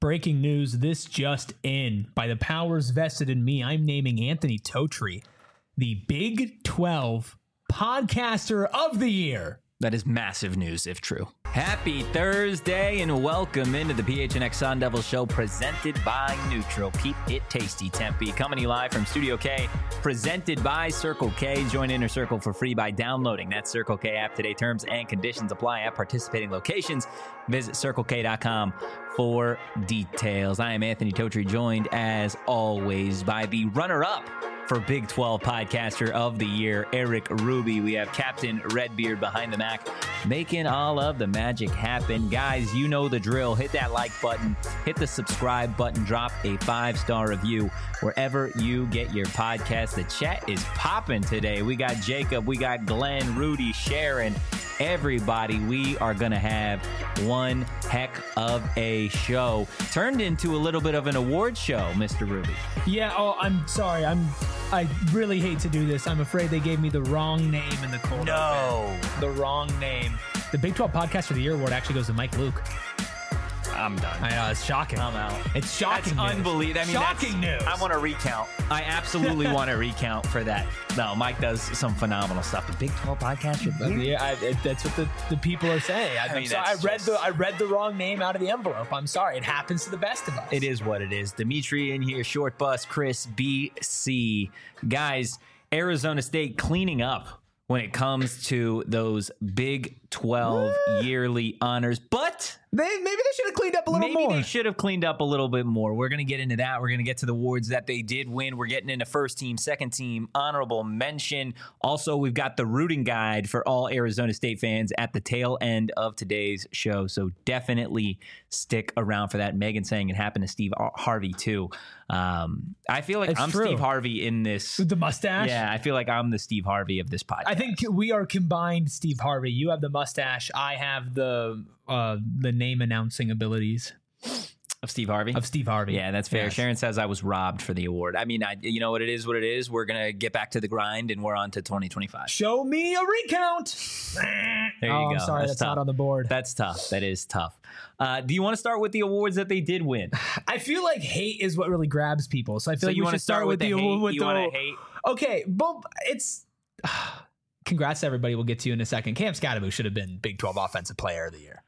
Breaking news, this just in. By the powers vested in me, I'm naming Anthony Totri the Big 12 Podcaster of the Year. That is massive news, if true. Happy Thursday and welcome into the PHNX Sun Devil Show presented by Neutral. Keep it tasty, Tempe. Coming to you live from Studio K, presented by Circle K. Join Inner Circle for free by downloading that Circle K app today. Terms and conditions apply at participating locations. Visit CircleK.com for details. I am Anthony Totri, joined as always by the runner-up for Big 12 Podcaster of the Year, Eric Ruby. We have Captain Redbeard behind the Mac, making all of the magic happen. Guys, you know the drill. Hit that like button, hit the subscribe button, drop a 5-star review wherever you get your podcast. The chat is popping today. We got Jacob, we got Glenn, Rudy, Sharon, everybody. We are going to have one heck of a show. Turned into a little bit of an award show, Mr. Ruby. Yeah, I'm sorry. I really hate to do this. I'm afraid they gave me the wrong name in the cold open. The wrong name. The Big 12 Podcaster of the Year award actually goes to Mike Luke. I'm done. I know, it's shocking. I'm out. It's shocking. That's unbelievable. I mean, shocking news. I want to recount. I absolutely want to recount for that. No, Mike does some phenomenal stuff. The Big 12 Podcaster of the Year? Yeah, that's what the people are saying. I read the wrong name out of the envelope. I'm sorry. It happens to the best of us. It is what it is. Dimitri in here, Short Bus, Chris, BC. Guys, Arizona State cleaning up when it comes to those Big 12 yearly honors. But maybe they should have cleaned up a little more. Maybe they should have cleaned up a little bit more. We're going to get into that. We're going to get to the awards that they did win. We're getting into first team, second team, honorable mention. Also, we've got the rooting guide for all Arizona State fans at the tail end of today's show. So definitely stick around for that. Megan saying it happened to Steve Harvey too. I feel like I'm true. Steve Harvey in this. With the mustache? Yeah, I feel like I'm the Steve Harvey of this podcast. I think we are combined Steve Harvey. You have the mustache. I have the name announcing abilities. Of Steve Harvey? Of Steve Harvey. Yeah, that's fair. Yes. Sharon says I was robbed for the award. I mean, you know what it is, We're going to get back to the grind, and we're on to 2025. Show me a recount. There you go. I'm sorry, that's not on the board. That's tough. That is tough. Do you want to start with the awards that they did win? I feel like hate is what really grabs people. So I feel like we should start with the hate. You want to hate? Okay, but it's... Congrats to everybody. We'll get to you in a second. Cam Skattebo should have been Big 12 Offensive Player of the Year.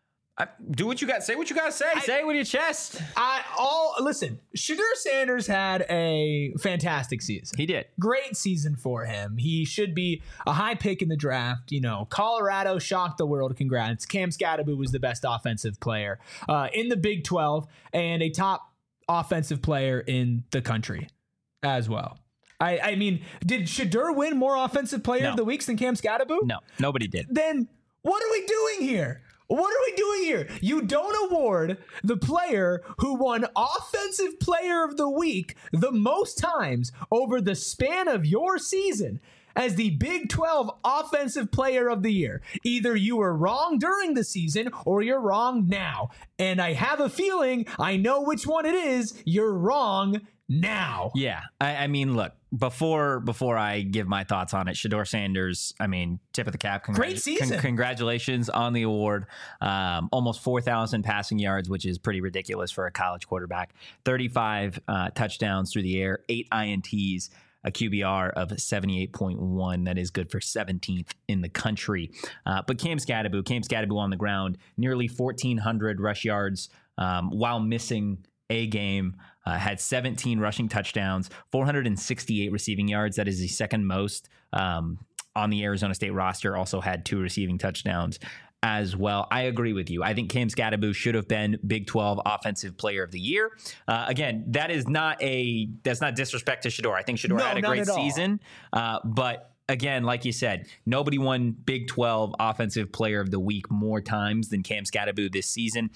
Do what you got. Say what you got to say. Say it with your chest. Listen, Shedeur Sanders had a fantastic season. He did. Great season for him. He should be a high pick in the draft. You know, Colorado shocked the world. Congrats. Cam Skattebo was the best offensive player in the Big 12 and a top offensive player in the country as well. I mean, did Shedeur win more offensive player of the weeks than Cam Skattebo? No, nobody did. Then what are we doing here? What are we doing here? You don't award the player who won Offensive Player of the Week the most times over the span of your season as the Big 12 Offensive Player of the Year. Either you were wrong during the season or you're wrong now. And I have a feeling I know which one it is. You're wrong now. Yeah. I mean, look, before I give my thoughts on it, Shedeur Sanders, I mean, tip of the cap. Great season. Congratulations on the award. Almost 4,000 passing yards, which is pretty ridiculous for a college quarterback. 35 touchdowns through the air, 8 INTs, a QBR of 78.1. That is good for 17th in the country. But Cam Skattebo on the ground, nearly 1,400 rush yards while missing a game, had 17 rushing touchdowns, 468 receiving yards. That is the second most on the Arizona State roster. Also had 2 receiving touchdowns as well. I agree with you. I think Cam Skattebo should have been Big 12 Offensive Player of the Year. Again, that's not disrespect to Shedeur. I think Shedeur had a great season, but again, like you said, nobody won Big 12 Offensive Player of the Week more times than Cam Skattebo this season.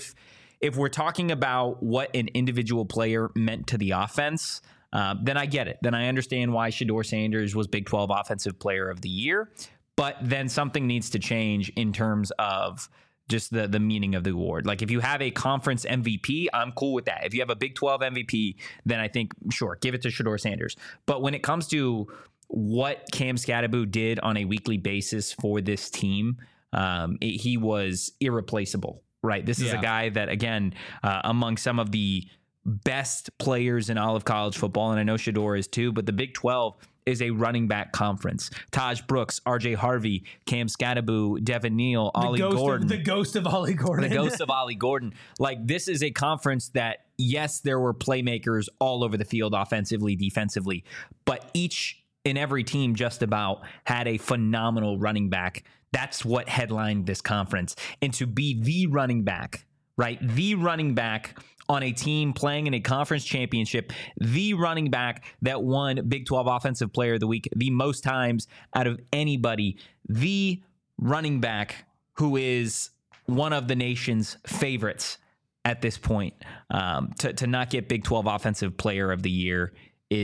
If we're talking about what an individual player meant to the offense, then I get it. Then I understand why Shedeur Sanders was Big 12 Offensive Player of the Year. But then something needs to change in terms of just the meaning of the award. Like if you have a conference MVP, I'm cool with that. If you have a Big 12 MVP, then I think, sure, give it to Shedeur Sanders. But when it comes to what Cam Skattebo did on a weekly basis for this team, he was irreplaceable. right? This is a guy that, again, among some of the best players in all of college football, and I know Shedeur is too, but the Big 12 is a running back conference. Taj Brooks, RJ Harvey, Cam Scatterbo, Devin Neal, Ollie Gordon. The ghost of Ollie Gordon. The ghost of Ollie Gordon. Like, this is a conference that, yes, there were playmakers all over the field, offensively, defensively, but each and every team just about had a phenomenal running back. That's what headlined this conference. And to be the running back, right? The running back on a team playing in a conference championship, the running back that won Big 12 Offensive Player of the Week the most times out of anybody, the running back who is one of the nation's favorites at this point, to not get Big 12 Offensive Player of the Year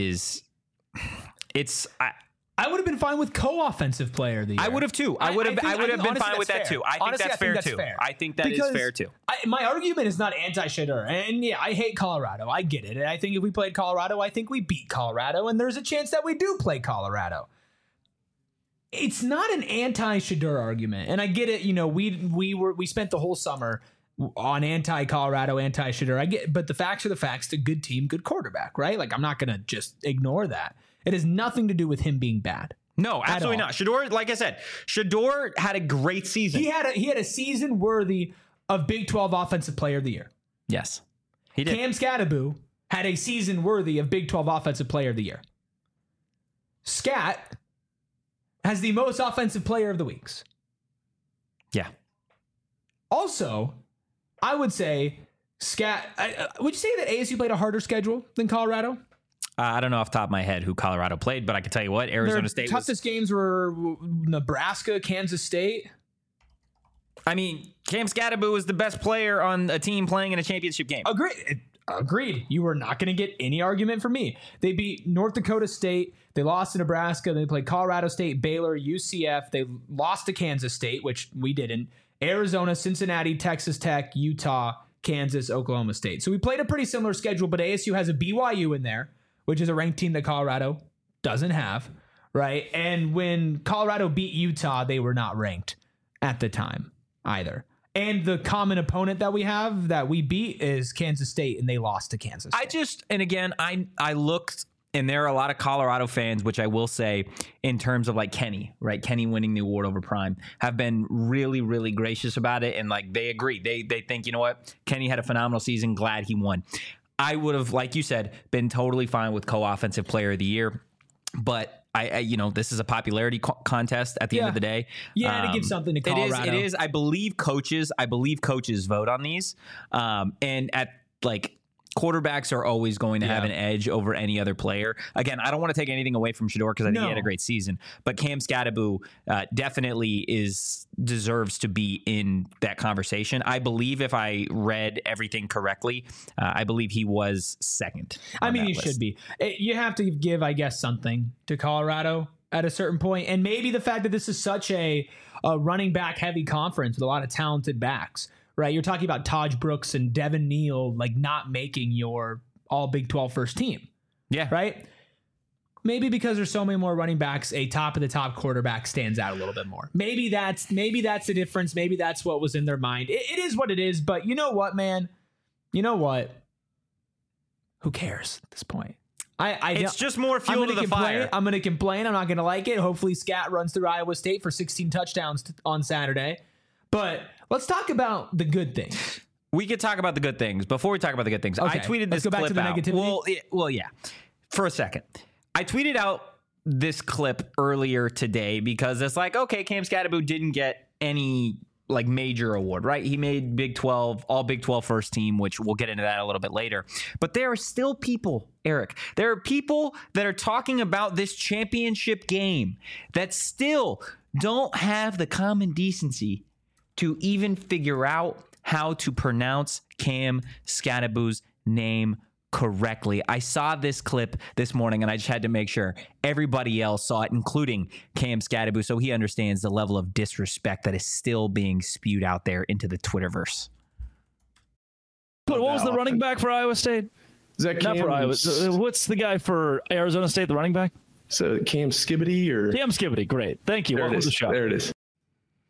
I would have been fine with co-offensive player of the year. I would have too. I would have been fine with that too. I think that's fair too. I think that is fair too. My argument is not anti-Shedeur. And yeah, I hate Colorado. I get it. And I think if we played Colorado, I think we beat Colorado. And there's a chance that we do play Colorado. It's not an anti-Shedeur argument. And I get it. You know, we spent the whole summer on anti-Colorado, anti-Shedeur. I get, but the facts are the facts. The good team, good quarterback, right? Like, I'm not going to just ignore that. It has nothing to do with him being bad. No, absolutely not. Shedeur, like I said, Shedeur had a great season. He had a season worthy of Big 12 Offensive Player of the Year. Yes, he did. Cam Scatterbo had a season worthy of Big 12 Offensive Player of the Year. Scat has the most Offensive Player of the Weeks. Yeah. Also, I would say Scat. Would you say that ASU played a harder schedule than Colorado? I don't know off the top of my head who Colorado played, but I can tell you what, Arizona State toughest games were Nebraska, Kansas State. I mean, Cam Scatterbo was the best player on a team playing in a championship game. Agreed. You were not going to get any argument from me. They beat North Dakota State. They lost to Nebraska. They played Colorado State, Baylor, UCF. They lost to Kansas State, which we didn't. Arizona, Cincinnati, Texas Tech, Utah, Kansas, Oklahoma State. So we played a pretty similar schedule, but ASU has a BYU in there, which is a ranked team that Colorado doesn't have, right? And when Colorado beat Utah, they were not ranked at the time either. And the common opponent that we have that we beat is Kansas State, and they lost to Kansas State. I looked, and there are a lot of Colorado fans, which I will say, in terms of like Kenny, right? Kenny winning the award over Prime, have been really, really gracious about it. And like, they agree. They think, you know what? Kenny had a phenomenal season. Glad he won. I would have, like you said, been totally fine with co-offensive player of the year, but I this is a popularity contest at the end of the day. Yeah, to give something to Colorado. It is. I believe coaches vote on these, and at like quarterbacks are always going to have an edge over any other player. Again, I don't want to take anything away from Shedeur because I think he had a great season, but Cam Scatterbo definitely deserves to be in that conversation. I believe if I read everything correctly, I believe he was second. I mean, he should be. You have to give, I guess, something to Colorado at a certain point, and maybe the fact that this is such a running back heavy conference with a lot of talented backs. Right, you're talking about Taj Brooks and Devin Neal, like not making your all Big 12 first team. Yeah. Right? Maybe because there's so many more running backs, a top of the top quarterback stands out a little bit more. Maybe that's the difference. Maybe that's what was in their mind. It is what it is, but you know what, man? You know what? Who cares at this point? It's just more fuel to the fire. I'm going to complain. I'm not going to like it. Hopefully Scat runs through Iowa State for 16 touchdowns on Saturday. But let's talk about the good things. We could talk about the good things. Before we talk about the good things, I tweeted this clip out. Let's go back to the negativity. Well, yeah. For a second. I tweeted out this clip earlier today because it's like, okay, Cam Scatterbo didn't get any like major award, right? He made Big 12, all Big 12 first team, which we'll get into that a little bit later. But there are still people, Eric, there are people that are talking about this championship game that still don't have the common decency to even figure out how to pronounce Cam Scatterbo's name correctly. I saw this clip this morning, and I just had to make sure everybody else saw it, including Cam Scatterbo, so he understands the level of disrespect that is still being spewed out there into the Twitterverse. What was the running back for Iowa State? Is that Cam? Not for Iowa. What's the guy for Arizona State, the running back? So Cam Skibbity or? Cam Skibbity, great. Thank you. There it is. There it is.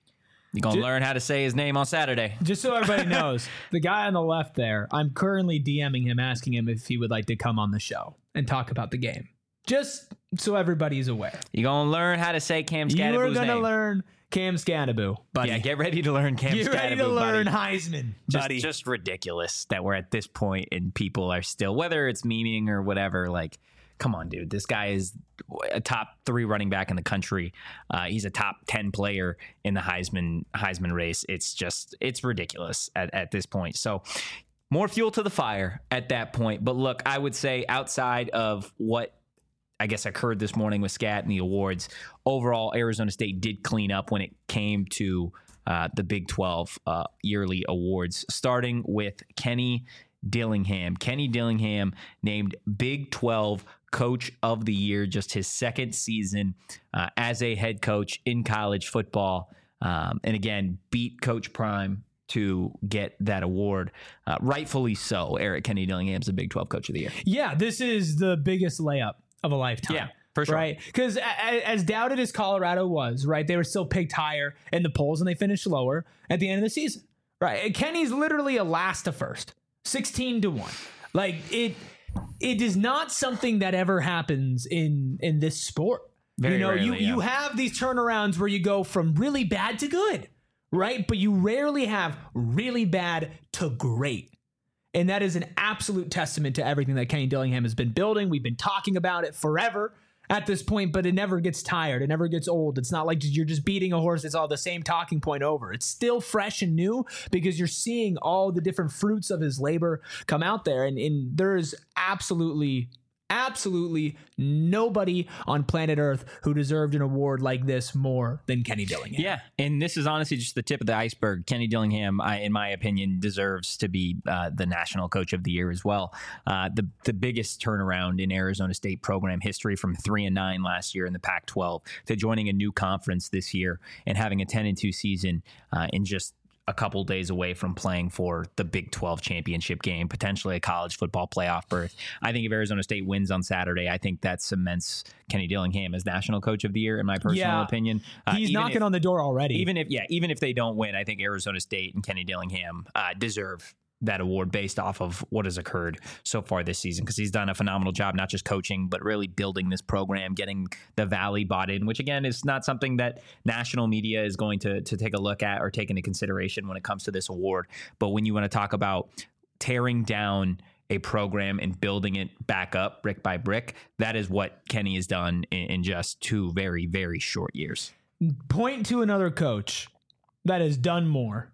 You're going to learn how to say his name on Saturday. Just so everybody knows, the guy on the left there, I'm currently DMing him, asking him if he would like to come on the show and talk about the game. Just so everybody's aware. You're going to learn how to say Cam Scanaboo's name. You are going to learn Cam Scanaboo, buddy. Yeah, get ready to learn Cam Scanaboo, Get ready to learn Heisman, buddy. Just ridiculous that we're at this point and people are still, whether it's memeing or whatever, like, come on, dude. This guy is a top 3 running back in the country. He's a top 10 player in the Heisman race. It's ridiculous at this point. So more fuel to the fire at that point. But look, I would say outside of what I guess occurred this morning with Scat and the awards, overall, Arizona State did clean up when it came to the Big 12 yearly awards, starting with Kenny Dillingham. Kenny Dillingham named Big 12 Coach of the Year, just his second season as a head coach in college football. And again, beat Coach Prime to get that award. Rightfully so. Eric, Kenny Dillingham's the Big 12 Coach of the Year. Yeah, this is the biggest layup of a lifetime. Yeah, for sure. Right? Because as doubted as Colorado was, right, they were still picked higher in the polls and they finished lower at the end of the season. Right? And Kenny's literally a last to first. 16-1. Like, it is not something that ever happens in this sport. Very rarely, you have these turnarounds where you go from really bad to good, right? But you rarely have really bad to great. And that is an absolute testament to everything that Kenny Dillingham has been building. We've been talking about it forever at this point, but it never gets tired. It never gets old. It's not like you're just beating a horse. It's all the same talking point over. It's still fresh and new because you're seeing all the different fruits of his labor come out there. And there's absolutely nobody on planet Earth who deserved an award like this more than Kenny Dillingham. Yeah, and this is honestly just the tip of the iceberg. Kenny Dillingham, in my opinion, deserves to be the National Coach of the Year as well. The biggest turnaround in Arizona State program history, from 3-9 last year in the Pac-12 to joining a new conference this year and having a 10-2 season in just a couple days away from playing for the Big 12 championship game, potentially a college football playoff berth. I think if Arizona State wins on Saturday, I think that cements Kenny Dillingham as National Coach of the Year, in my personal opinion. He's knocking on the door already. Even if they don't win, I think Arizona State and Kenny Dillingham deserve that award based off of what has occurred so far this season, because he's done a phenomenal job, not just coaching, but really building this program, getting the Valley bought in, which again is not something that national media is going to take a look at or take into consideration when it comes to this award. But when you want to talk about tearing down a program and building it back up brick by brick, that is what Kenny has done in just 2 very, very short years. Point to another coach that has done more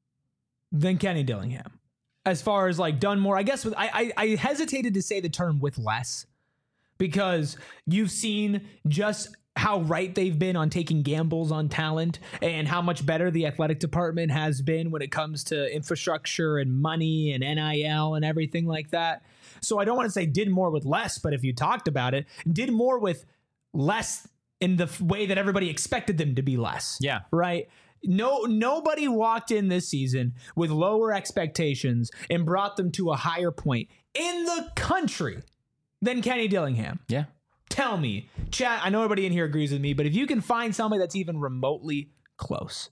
than Kenny Dillingham. As far as like done more, I guess I hesitated to say the term with less, because you've seen just how right they've been on taking gambles on talent and how much better the athletic department has been when it comes to infrastructure and money and NIL and everything like that. So I don't want to say did more with less, but if you talked about it, did more with less in the way that everybody expected them to be less. Yeah. Right. Nobody walked in this season with lower expectations and brought them to a higher point in the country than Kenny Dillingham. Yeah. Tell me, chat, I know everybody in here agrees with me, but if you can find somebody that's even remotely close,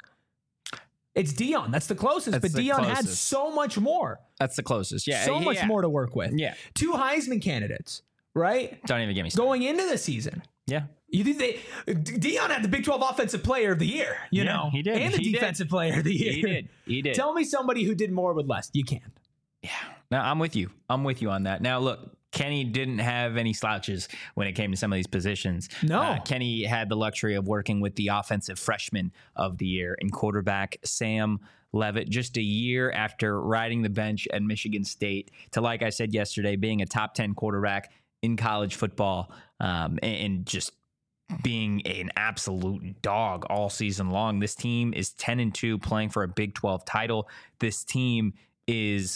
it's Dion. That's the closest. But Dion had so much more. That's the closest. Yeah. So much more to work with. Yeah. 2 Heisman candidates, right? Don't even get me started. Going into the season. Yeah. You think Dion had the Big 12 Offensive Player of the Year, you know? He did. And the Defensive Player of the Year. He did. Tell me somebody who did more with less. You can't. Yeah. Now, I'm with you on that. Now, look, Kenny didn't have any slouches when it came to some of these positions. No. Kenny had the luxury of working with the Offensive Freshman of the Year and quarterback Sam Levitt, just a year after riding the bench at Michigan State to, like I said yesterday, being a top 10 quarterback in college football, and just being an absolute dog all season long. This team is 10-2 playing for a Big 12 title. This team is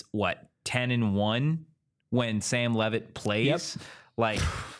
10-1 when Sam Levitt plays. Yep. Like,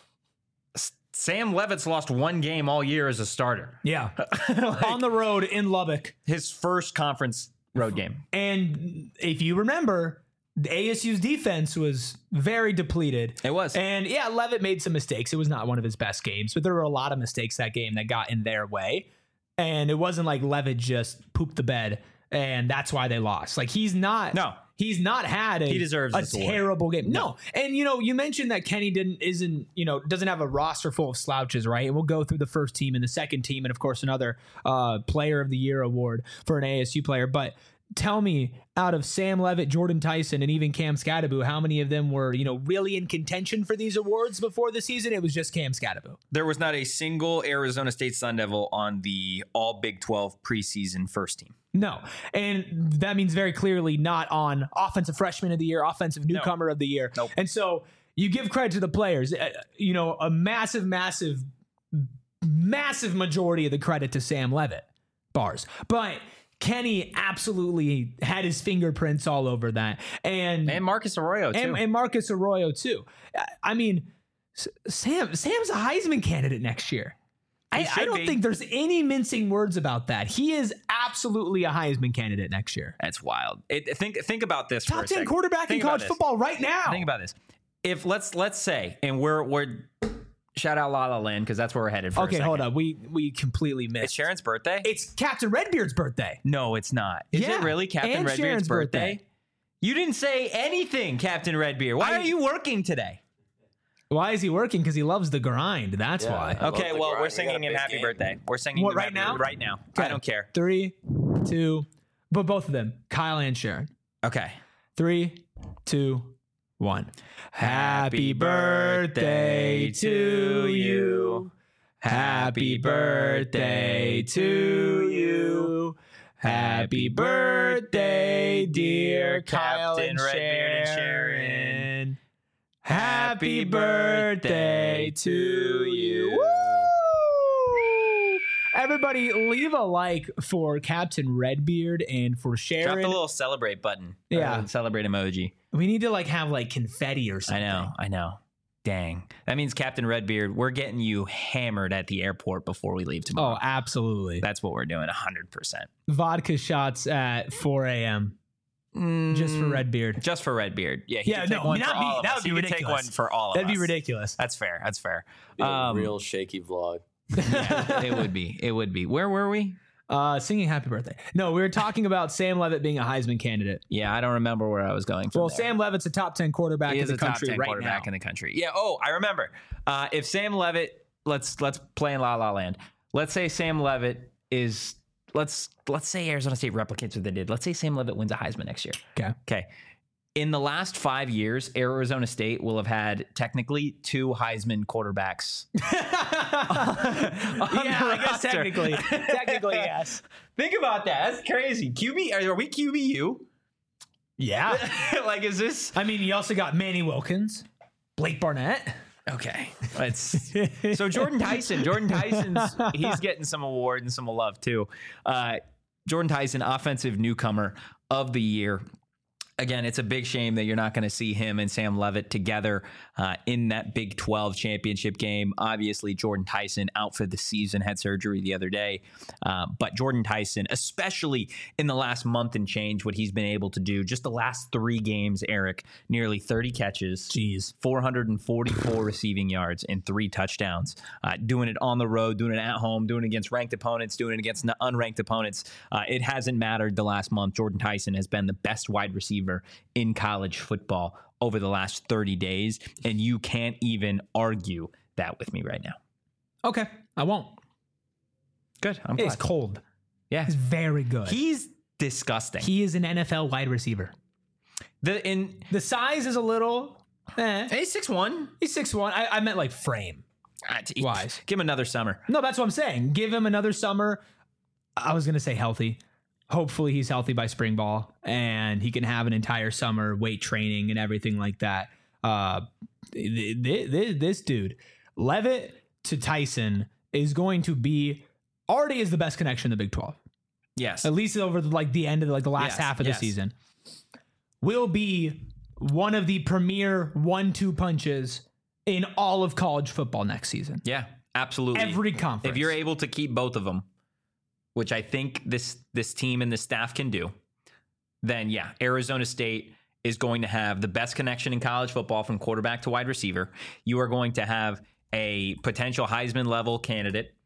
Sam Levitt's lost 1 game all year as a starter. Yeah. On the road in Lubbock. His first conference road game. And if you remember, the ASU's defense was very depleted. It was. And yeah, Levitt made some mistakes. It was not one of his best games, but there were a lot of mistakes that game that got in their way. and it wasn't like Levitt just pooped the bed and that's why they lost. Like he's not had He deserves a this award. terrible game. No. And you mentioned that Kenny doesn't have a roster full of slouches, right? And we'll go through the first team and the second team and of course another player of the year award for an ASU player. But tell me, out of Sam Levitt, Jordan Tyson, and even Cam Scadaboo, how many of them were, really in contention for these awards before the season? It was just Cam Scadaboo. There was not a single Arizona State Sun Devil on the all Big 12 preseason first team. No. And that means very clearly not on offensive freshman of the year, offensive newcomer of the year. Nope. And so you give credit to the players, a massive majority of the credit to Sam Levitt, bars. But Kenny absolutely had his fingerprints all over that. And Marcus Arroyo, too. And Marcus Arroyo, too. I mean, Sam's a Heisman candidate next year. I don't think there's any mincing words about that. He is absolutely a Heisman candidate next year. That's wild. Think about this. Top 10 quarterback in college football right now. Think about this. If let's say, and we're shout out La La Land because that's where we're headed. Okay, hold up. We completely missed. It's Sharon's birthday. It's Captain Redbeard's birthday. No, it's not. Is it really Captain Redbeard's Sharon's birthday? You didn't say anything, Captain Redbeard. Why are you working today? Why is he working? Because he loves the grind. That's why. Okay, well, we're singing him happy birthday. We're singing him right now? Right now. Okay. I don't care. 3, 2, but both of them, Kyle and Sharon. Okay. 3, 2, 1. Happy birthday to you. Happy birthday to you. Happy birthday, dear Kyle and Redbeard and Sharon. Happy birthday to you. Woo! Everybody leave a like for Captain Redbeard and for Sharon. Drop the little celebrate button. Yeah. Celebrate emoji. We need to have confetti or something. I know. Dang. That means Captain Redbeard, we're getting you hammered at the airport before we leave tomorrow. Oh, absolutely. That's what we're doing, 100%. Vodka shots at 4 a.m. Just for Redbeard. Just for Redbeard. Yeah. That would be ridiculous. Take one for all of us. That'd be ridiculous. That's fair. Real shaky vlog. Yeah, it would be. Where were we? Singing happy birthday. No, we were talking about Sam Levitt being a Heisman candidate. Yeah, I don't remember where I was going from. Well, there. Sam Levitt's a top 10 quarterback in the country right now. Quarterback in the country. Yeah. Oh, I remember. If Sam Levitt, let's play in La La Land. Let's say Sam Levitt is. Let's say Arizona State replicates what they did. Let's say Sam Levitt wins a Heisman next year. Okay. In the last 5 years, Arizona State will have had technically 2 Heisman quarterbacks. I guess technically yes. Think about that. That's crazy. Are we QBU? Yeah. Is this? I mean, you also got Manny Wilkins, Blake Barnett. Okay. So Jordan Tyson's he's getting some awards and some love too. Jordan Tyson, offensive newcomer of the year. Again, it's a big shame that you're not going to see him and Sam Levitt together in that Big 12 championship game. Obviously, Jordan Tyson out for the season, had surgery the other day. But Jordan Tyson, especially in the last month and change, what he's been able to do, just the last 3 games, Eric, nearly 30 catches, 444 receiving yards, and 3 touchdowns. Doing it on the road, doing it at home, doing it against ranked opponents, doing it against unranked opponents. It hasn't mattered the last month. Jordan Tyson has been the best wide receiver in college football over the last 30 days, and you can't even argue that with me right now. Okay, I won't. Good. I'm glad. It's glad. cold. Yeah. He's very good. He's disgusting. He is an NFL wide receiver. The size is a little... He's 6'1". He's 6'1". I meant frame. Wise. Give him another summer. No, that's what I'm saying. Give him another summer. I was going to say healthy. Hopefully he's healthy by spring ball and he can have an entire summer weight training and everything like that. This dude, Levitt to Tyson, is going to be already is the best connection in the Big 12. Yes. At least over the end of the last half of the season. Will be one of the premier 1-2 punches in all of college football next season. Yeah, absolutely. Every conference. If you're able to keep both of them, which I think this team and the staff can do, then yeah, Arizona State is going to have the best connection in college football from quarterback to wide receiver. You are going to have a potential Heisman level candidate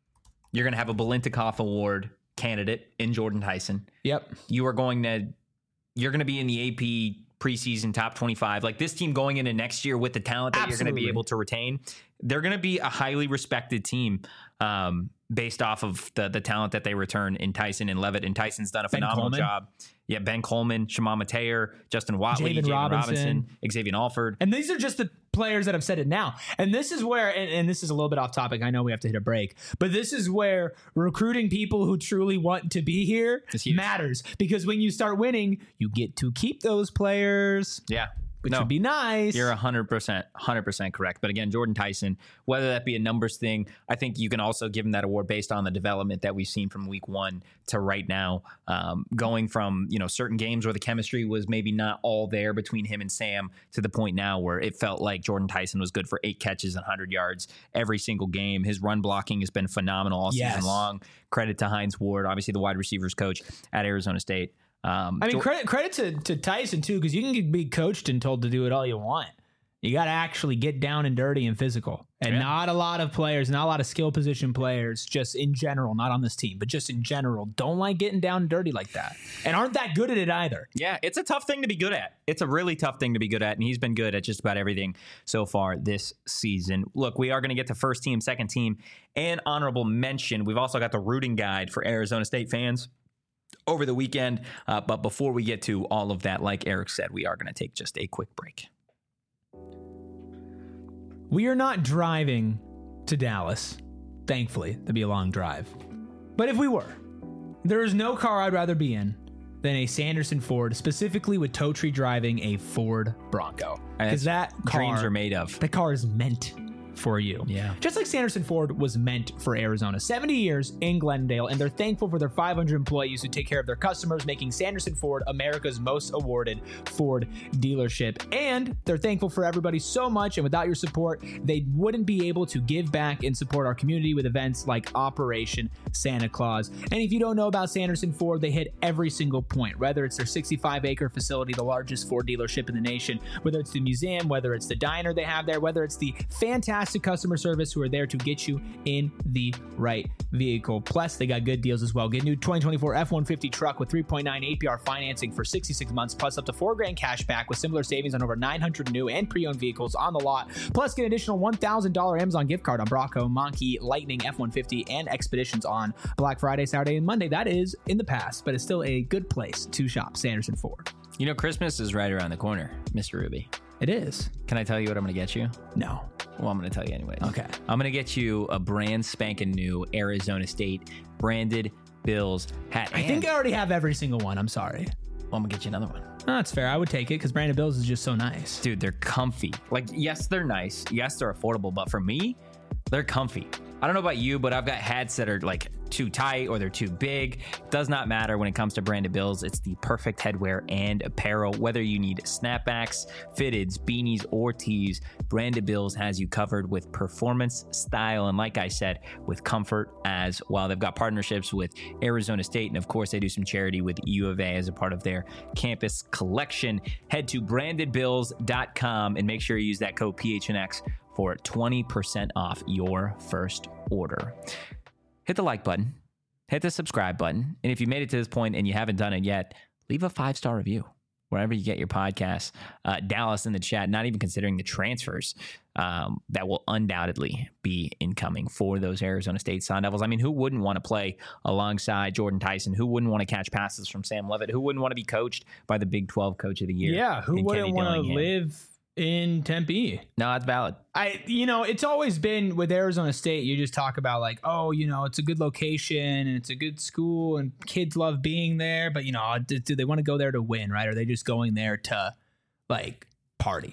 You're going to have a Biletnikoff Award candidate in Jordan Tyson. Yep. You're going to be in the AP preseason top 25. Like this team going into next year with the talent that you're going to be able to retain, they're going to be a highly respected team based off of the talent that they return in Tyson and Levitt. And Tyson's done a phenomenal job. Yeah, Ben Coleman, Shimon Mateer, Justin Watley, Jaden Robinson, Xavier Alford. And these are just the players that have said it now. And this is where, and this is a little bit off topic. I know we have to hit a break, but this is where recruiting people who truly want to be here matters. Because when you start winning, you get to keep those players. Yeah. Which would be nice. You're 100% correct. But again, Jordan Tyson, whether that be a numbers thing, I think you can also give him that award based on the development that we've seen from week 1 to right now. Going from, certain games where the chemistry was maybe not all there between him and Sam to the point now where it felt like Jordan Tyson was good for 8 catches and 100 yards every single game. His run blocking has been phenomenal all season long. Credit to Hines Ward, obviously the wide receivers coach at Arizona State. Credit to Tyson too, because you can be coached and told to do it all you want. You got to actually get down and dirty and physical. And not a lot of players, not a lot of skill position players, just in general, not on this team, but just in general, don't like getting down and dirty like that. And aren't that good at it either. Yeah, it's a tough thing to be good at. It's a really tough thing to be good at. And he's been good at just about everything so far this season. Look, we are going to get to first team, second team, and honorable mention. We've also got the rooting guide for Arizona State fans over the weekend. But before we get to all of that, like Eric said, we are going to take just a quick break. We are not driving to Dallas, thankfully. That'd be a long drive. But if we were, there is no car I'd rather be in than a Sanderson Ford, specifically with Totri driving a Ford Bronco. Because that car, dreams are made of. The car is meant for you. Yeah. Just like Sanderson Ford was meant for Arizona. 70 years in Glendale, and they're thankful for their 500 employees who take care of their customers, making Sanderson Ford America's most awarded Ford dealership. And they're thankful for everybody so much, and without your support, they wouldn't be able to give back and support our community with events like Operation Santa Claus. And if you don't know about Sanderson Ford, they hit every single point, whether it's their 65-acre facility, the largest Ford dealership in the nation, whether it's the museum, whether it's the diner they have there, whether it's the fantastic customer service who are there to get you in the right vehicle. Plus, they got good deals as well. Get a new 2024 F-150 truck with 3.9 APR financing for 66 months, plus up to $4,000 cash back with similar savings on over 900 new and pre-owned vehicles on the lot. Plus, get an additional $1,000 Amazon gift card on Bronco, Monkey, Lightning, F-150, and Expeditions on Black Friday, Saturday, and Monday. That is in the past, but it's still a good place to shop. Sanderson Ford. Christmas is right around the corner, Mr. Ruby. It is. Can I tell you what I'm going to get you? No. Well, I'm going to tell you anyways. Okay. I'm going to get you a brand spanking new Arizona State branded Bills hat. I think I already have every single one. I'm sorry. Well, I'm going to get you another one. No, that's fair. I would take it because Brandon Bills is just so nice. Dude, they're comfy. Like, yes, they're nice. Yes, they're affordable. But for me, they're comfy. I don't know about you, but I've got hats that are like too tight or they're too big. Does not matter when it comes to Branded Bills. It's the perfect headwear and apparel. Whether you need snapbacks, fitteds, beanies, or tees, Branded Bills has you covered with performance, style, and like I said, with comfort as well. They've got partnerships with Arizona State, and of course, they do some charity with U of A as a part of their campus collection. Head to brandedbills.com and make sure you use that code PHNX for 20% off your first order. Hit the like button, hit the subscribe button, and if you made it to this point and you haven't done it yet, leave a 5-star review wherever you get your podcasts. Dallas in the chat, not even considering the transfers that will undoubtedly be incoming for those Arizona State Sun Devils. I mean, who wouldn't want to play alongside Jordan Tyson? Who wouldn't want to catch passes from Sam Levitt? Who wouldn't want to be coached by the Big 12 Coach of the Year? Yeah, who wouldn't want to live in Tempe? No, that's valid. It's always been with Arizona State, you just talk about like, oh, it's a good location and it's a good school and kids love being there, but do they want to go there to win, right? Or are they just going there to like party?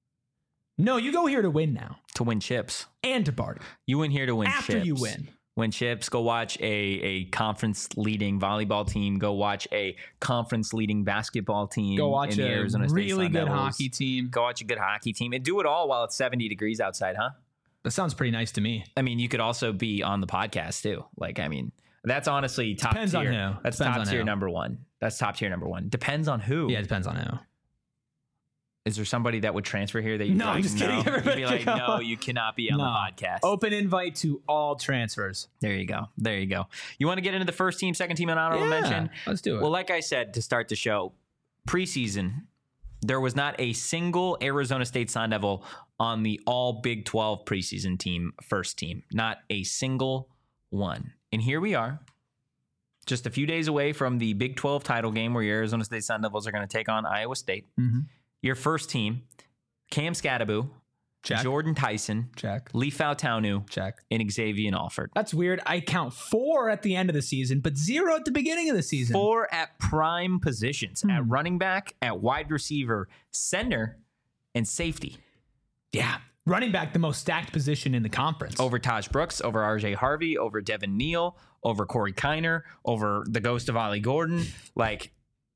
No, you go here to win now. To win chips. And to party. You win here to win after chips. You win. Win chips, go watch a conference-leading volleyball team. Go watch a conference-leading basketball team. Go watch in the Arizona State really Sun good Devils. hockey team. Go watch a good hockey team. And do it all while it's 70 degrees outside, huh? That sounds pretty nice to me. I mean, you could also be on the podcast, too. That's honestly top depends tier. On who. That's depends top on tier who. number one. That's top tier number one. Depends on who. Yeah, it depends on who. Is there somebody that would transfer here that you'd No, I'm just kidding. You'd Everybody be like, go. no, you cannot be on the podcast. Open invite to all transfers. There you go. There you go. You want to get into the first team, second team, and honorable mention? Let's do it. Well, like I said to start the show, preseason, there was not a single Arizona State Sun Devil on the all Big 12 preseason team, first team. Not a single one. And here we are, just a few days away from the Big 12 title game where your Arizona State Sun Devils are going to take on Iowa State. Mm-hmm. Your first team, Cam Scadaboo, Check. Jordan Tyson, Check. Lee Fautaunu, Check. and Xavier Alford. That's weird. I count 4 at the end of the season, but 0 at the beginning of the season. 4 at prime positions, at running back, at wide receiver, center, and safety. Yeah. Running back, the most stacked position in the conference. Over Taj Brooks, over RJ Harvey, over Devin Neal, over Corey Kiner, over the ghost of Ollie Gordon. Like,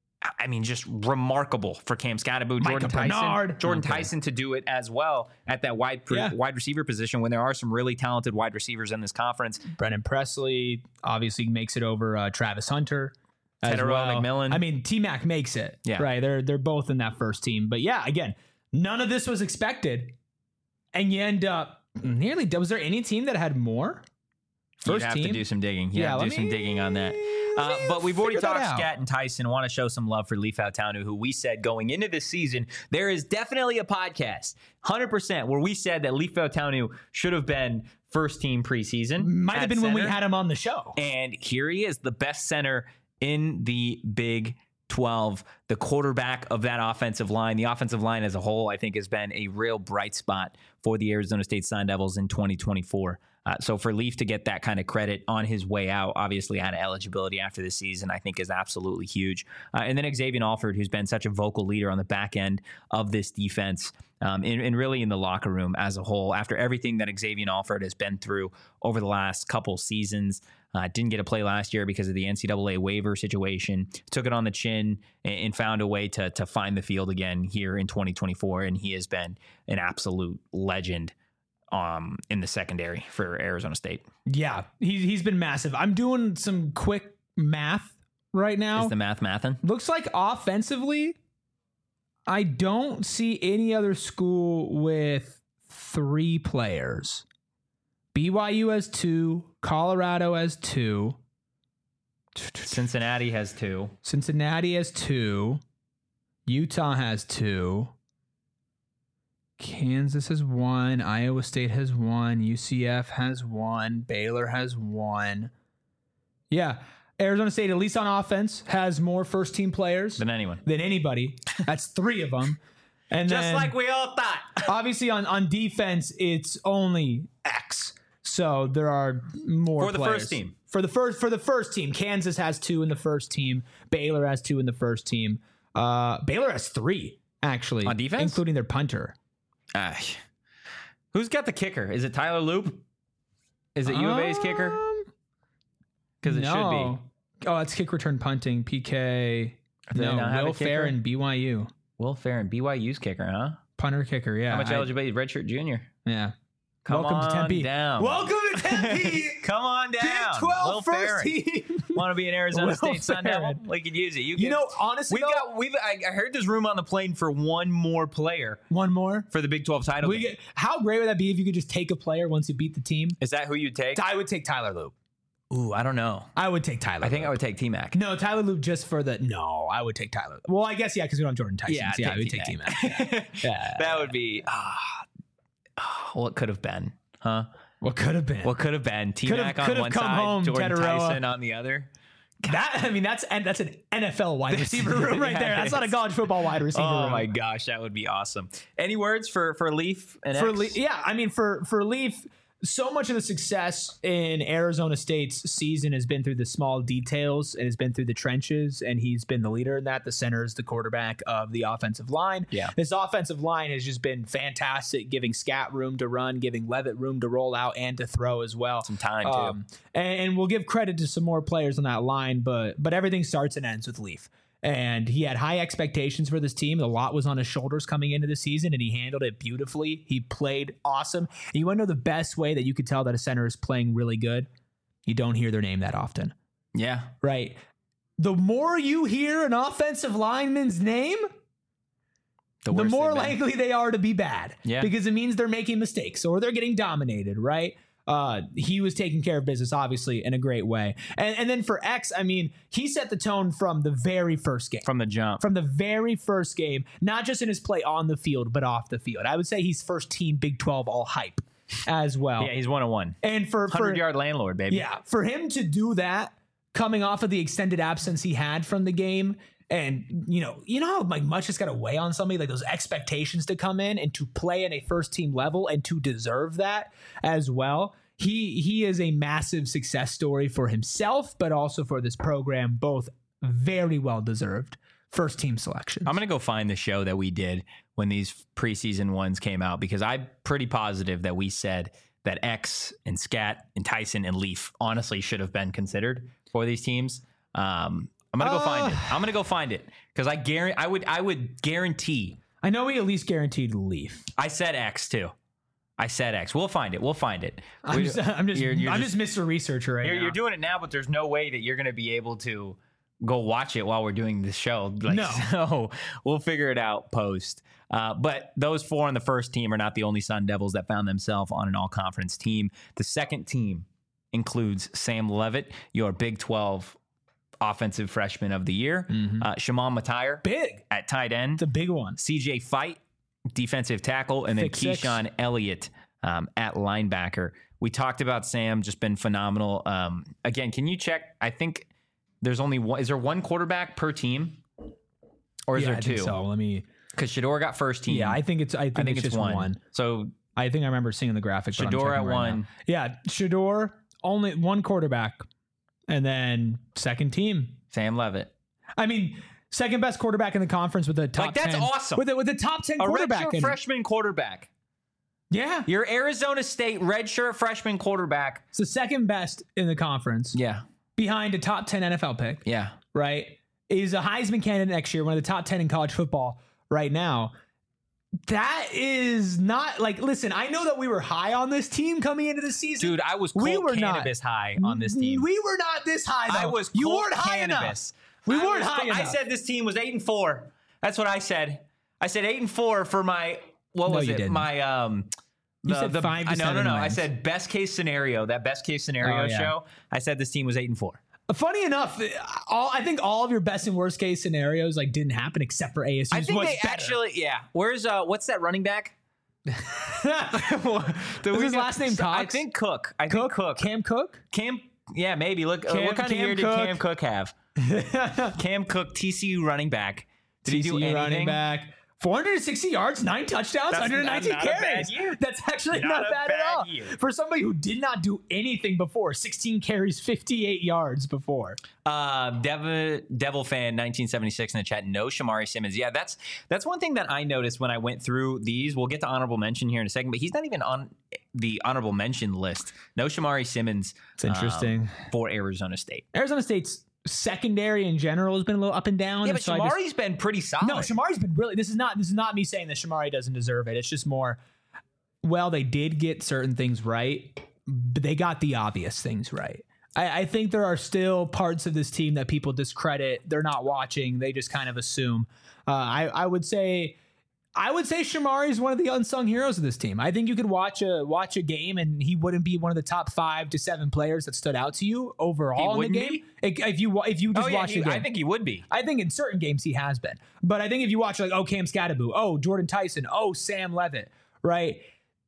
I mean, just remarkable for Cam Scadaboo, Jordan Bernard. Tyson to do it as well at that wide receiver position when there are some really talented wide receivers in this conference. Brennan Presley obviously makes it over Travis Hunter. Tedero McMillan. I mean, T-Mac makes it. Yeah. Right. They're both in that first team. But yeah, again, none of this was expected. And you end up nearly. Was there any team that had more? You'd have to do some digging. You have to do some digging on that. But we've already talked Scat and Tyson. Want to show some love for Lee Fautaunu, who we said going into this season, there is definitely a podcast, 100%, where we said that Lee Fautaunu should have been first team preseason. Might have been when we had him on the show. And here he is, the best center in the Big 12, the quarterback of that offensive line. The offensive line as a whole, I think, has been a real bright spot for the Arizona State Sun Devils in 2024. So for Leaf to get that kind of credit on his way out, obviously out of eligibility after the season, I think is absolutely huge. And then Xavier Alford, who's been such a vocal leader on the back end of this defense and really in the locker room as a whole. After everything that Xavier Alford has been through over the last couple seasons, didn't get to play last year because of the NCAA waiver situation, took it on the chin and found a way to find the field again here in 2024. And he has been an absolute legend in the secondary for Arizona State. Yeah, he's been massive. I'm doing some quick math right now. Is the mathin'? Looks like offensively, I don't see any other school with 3 players. BYU has 2, Colorado has 2. Cincinnati has 2. Cincinnati has 2. Utah has 2. Kansas has 1. Iowa State has 1. UCF has 1. Baylor has 1. Yeah. Arizona State, at least on offense, has more first-team players Than anyone. than anybody. That's 3 of them. And Just then, like we all thought. obviously, on defense, it's only X. So there are more For the players. first team. For the first team, Kansas has 2 in the first team. Baylor has 2 in the first team. Baylor has 3 actually On defense? including their punter. Who's got the kicker? Is it Tyler Loop? Is it U of A's kicker? Because it should be. Oh, it's kick return punting. PK. Do they not have Will a kicker? Fair and BYU. Will Farron, BYU's kicker, huh? Punter kicker, yeah. How much eligibility? Redshirt junior. Yeah. Come Welcome on to Tempe. down. Welcome to Tempe. Come on down. Big 12 Will first Farron. team. Want to be an Arizona Will State Sun Devil? Farron. We could use it. You know, honestly, I heard there's room on the plane for one more player one more. for the Big 12 title game. How great would that be if you could just take a player once you beat the team? Is that who you'd take? I would take Tyler Loop. Ooh, I don't know. I would take Tyler. I think Loop. I would take T-Mac. No, Tyler Loop just for the. No, I would take Tyler. Well, I guess, yeah, because we don't have Jordan Tyson. Yeah, I would take T-Mac. Yeah. That would be. What could have been, huh? What could have been? What could have been? T-Mac on one come side, home, Jordan Tedero. Tyson on the other. That's an NFL wide receiver room right Yeah, there. it That's not a is. college football wide receiver room. Oh my gosh, that would be awesome. Any words for Leaf and X? Yeah, I mean for Leaf, so much of the success in Arizona State's season has been through the small details and has been through the trenches, and he's been the leader in that. The center is the quarterback of the offensive line. Yeah. This offensive line has just been fantastic, giving Scat room to run, giving Levitt room to roll out and to throw as well. Some time, too. And we'll give credit to some more players on that line, but everything starts and ends with Leaf. And he had high expectations for this team. A lot was on his shoulders coming into the season, and he handled it beautifully. He played awesome. And you want to know the best way that you could tell that a center is playing really good? You don't hear their name that often. Yeah. Right. The more you hear an offensive lineman's name, the worse more they've been. likely they are to be bad. Yeah. Because it means they're making mistakes or they're getting dominated, right? He was taking care of business, obviously, in a great way. And then for X, I mean, he set the tone from the very first game. From the jump. From the very first game, not just in his play on the field, but off the field. I would say he's first team Big 12 all hype as well. Yeah, he's 101. And for 100-yard landlord, baby. yeah, for him to do that coming off of the extended absence he had from the game, and you know how like much it's got to weigh on somebody, like those expectations to come in and to play in a first team level and to deserve that as well. He is a massive success story for himself, but also for this program. Both very well deserved first team selections. I'm going to go find the show that we did when these preseason ones came out, because I'm pretty positive that we said that X and Scat and Tyson and Leaf honestly should have been considered for these teams. I'm going to go find it. I'm going to go find it because I would guarantee. I know we at least guaranteed Leaf. I said X too. I said X. We'll find it. I'm just You're Mr. Researcher right now. You're doing it now, but there's no way that you're going to be able to go watch it while we're doing this show. Like, no. So we'll figure it out post. But those 4 on the first team are not the only Sun Devils that found themselves on an all-conference team. The second team includes Sam Levitt, your Big 12 offensive freshman of the year. Shimon Matire. Big. At tight end. It's a big one. CJ Fight, defensive tackle, and then Keyshawn Elliott at linebacker. We talked about Sam, just been phenomenal. Again, can you check? I think there's only one. Is there one quarterback per team? Or is there 2? I think so. Let me... Because Shador got first team. Yeah, I think it's just one. So I think I remember seeing the graphic. Shador at 1. Now. Yeah, Shador, only one quarterback. And then second team. Sam Levitt. I mean, second best quarterback in the conference with the top 10. That's awesome. With the top 10 quarterback. A redshirt freshman quarterback. Yeah. Your Arizona State redshirt freshman quarterback. It's the second best in the conference. Yeah. Behind a top 10 NFL pick. Yeah. Right? Is a Heisman candidate next year, one of the top 10 in college football right now. That is not like, listen, I know that we were high on this team coming into the season. Dude, I was cannabis high on this team. We were not this high, though. I was You weren't high enough. We weren't high enough. I said this team was 8-4. That's what I said. I said 8-4 for my, what was it? Didn't. My, you said 5 to 7 No. wins. I said best case scenario, that best case scenario show. I said this team was 8-4. Funny enough, I think all of your best and worst case scenarios like didn't happen except for ASU. I think they actually, yeah. Where's what's that running back? Is his last name Cox? I think Cook. Cook. Cam Cook? Yeah, maybe. Look, what kind of year did Cam Cook have? Cam Cook, TCU running back. Did he do anything? Running back. 460 yards, 9 touchdowns, 119 carries. That's actually not bad at all. For somebody who did not do anything before, 16 carries, 58 yards before. Devil fan 1976 in the chat. No Shamari Simmons. Yeah, that's one thing that I noticed when I went through these. We'll get to honorable mention here in a second, but he's not even on the honorable mention list. No Shamari Simmons. It's interesting for Arizona State. Arizona State's secondary in general has been a little up and down. Yeah, but Shamari's been pretty solid. No, Shamari's been really. This is not me saying that Shamari doesn't deserve it. It's just more. Well, they did get certain things right, but they got the obvious things right. I think there are still parts of this team that people discredit. They're not watching. They just kind of assume. I would say Shamari is one of the unsung heroes of this team. I think you could watch a game and he wouldn't be one of the top 5 to 7 players that stood out to you overall in the game. If you just watch the game, I think he would be. I think in certain games he has been, but I think if you watch like Cam Scattaboo, Jordan Tyson, Sam Levitt, right?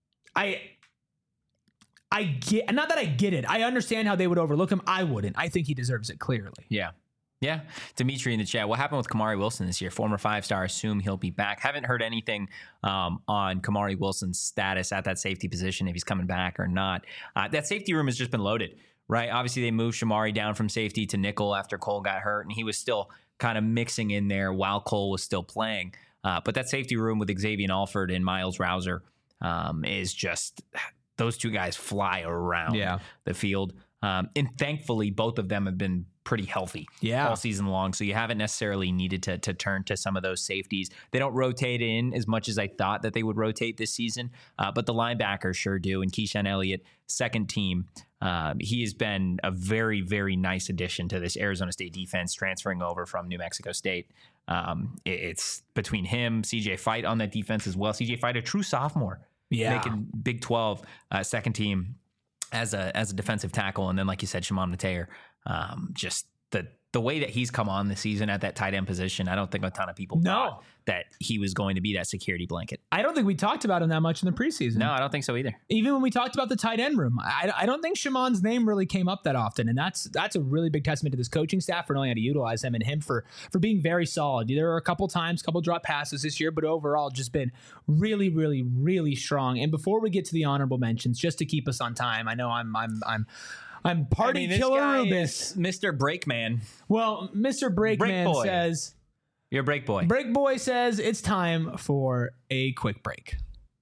I get, not that I get it. I understand how they would overlook him. I wouldn't. I think he deserves it clearly. Yeah. Yeah. Dimitri in the chat. What happened with Kamari Wilson this year? Former 5-star. Assume he'll be back. Haven't heard anything on Kamari Wilson's status at that safety position, if he's coming back or not. That safety room has just been loaded, right? Obviously, they moved Shamari down from safety to nickel after Cole got hurt, and he was still kind of mixing in there while Cole was still playing. But that safety room with Xavier Alford and Miles Rouser is just... Those two guys fly around the field. And thankfully, both of them have been pretty healthy all season long. So you haven't necessarily needed to turn to some of those safeties. They don't rotate in as much as I thought that they would rotate this season. But the linebackers sure do. And Keyshawn Elliott, second team, he has been a very, very nice addition to this Arizona State defense, transferring over from New Mexico State. It's between him, CJ Fight on that defense as well. CJ Fight, a true sophomore, making Big 12 second team as a defensive tackle, and then like you said, Shimon Mateer, just the way that he's come on this season at that tight end position, I don't think a ton of people thought that he was going to be that security blanket. I don't think we talked about him that much in the preseason. No, I don't think so either. Even when we talked about the tight end room, I don't think Shimon's name really came up that often, and that's a really big testament to this coaching staff for knowing how to utilize him, and him for being very solid. There are a couple drop passes this year, but overall just been really, really, really strong. And before we get to the honorable mentions, just to keep us on time, I know I'm party killer Rubis. Mr. Breakman. Well, Mr. Breakman says... You're a break boy. Break boy says it's time for a quick break.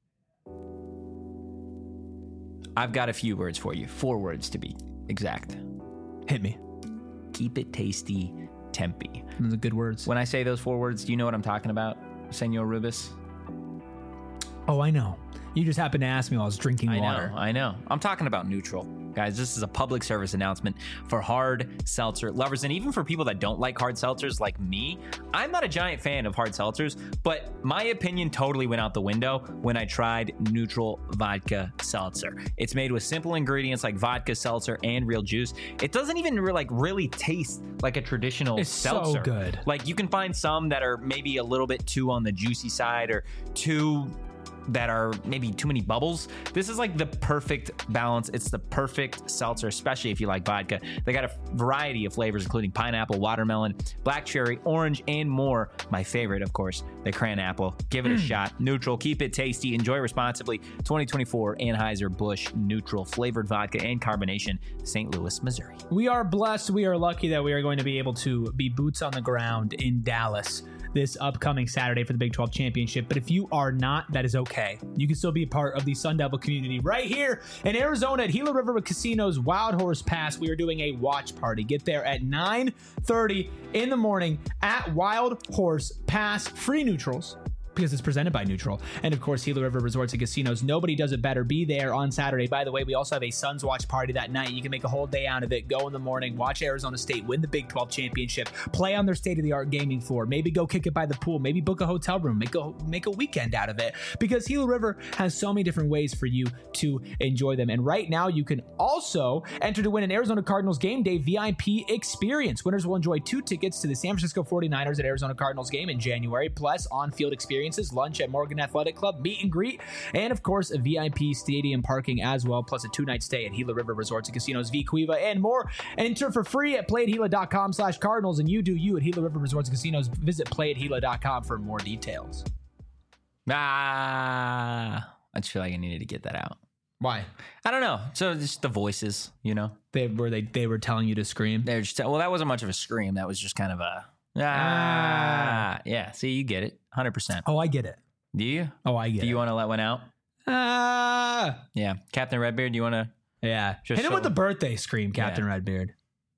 I've got a few words for you. 4 words to be exact. Hit me. Keep it tasty, Tempe. Those are good words. When I say those 4 words, do you know what I'm talking about, Senor Rubis? Oh, I know. You just happened to ask me while I was drinking water. I know. I'm talking about neutral. Guys, this is a public service announcement for hard seltzer lovers, and even for people that don't like hard seltzers like me. I'm not a giant fan of hard seltzers, but my opinion totally went out the window when I tried Neutral Vodka Seltzer. It's made with simple ingredients like vodka, seltzer, and real juice. It doesn't even really taste like a traditional seltzer. It's so good. Like, you can find some that are maybe a little bit too on the juicy side, or too that are maybe too many bubbles. This is like the perfect balance. It's the perfect seltzer, especially if you like vodka. They got a variety of flavors, including pineapple, watermelon, black cherry, orange, and more. My favorite, of course, the cran apple. Give it a shot. Neutral, keep it tasty, enjoy responsibly. 2024 Anheuser-Busch Neutral flavored vodka and carbonation, St. Louis, Missouri. We are blessed. We are lucky that we are going to be able to be boots on the ground in Dallas this upcoming Saturday for the Big 12 Championship. But if you are not, that is okay. You can still be a part of the Sun Devil community right here in Arizona at Gila River Casino's Wild Horse Pass. We are doing a watch party. Get there at 9:30 in the morning at Wild Horse Pass. Free neutrals, because it's presented by Neutral. And of course, Gila River Resorts and Casinos. Nobody does it better. Be there on Saturday. By the way, we also have a Suns watch party that night. You can make a whole day out of it. Go in the morning, watch Arizona State win the Big 12 championship, play on their state-of-the-art gaming floor, maybe go kick it by the pool, maybe book a hotel room, make a weekend out of it, because Gila River has so many different ways for you to enjoy them. And right now, you can also enter to win an Arizona Cardinals game day VIP experience. Winners will enjoy 2 tickets to the San Francisco 49ers at Arizona Cardinals game in January, plus on-field experiences, lunch at Morgan Athletic Club, meet and greet, and of course a VIP stadium parking as well, plus a 2-night stay at Gila River Resorts and Casinos, V Cueva, and more. Enter for free at playatgila.com/Cardinals, and you do you at Gila River Resorts and Casinos. Visit playatgila.com for more details. I just feel like I needed to get that out. Why? I don't know. So just the voices, you know, They were telling you to scream. they're just, well, that wasn't much of a scream. That was just kind of a yeah. See, you get it, 100%. Oh, I get it. Do you? Oh, I get it. Do you want to let one out? Yeah, Captain Redbeard. Do you want to? Yeah. Just Hit him with the birthday scream, Captain Redbeard.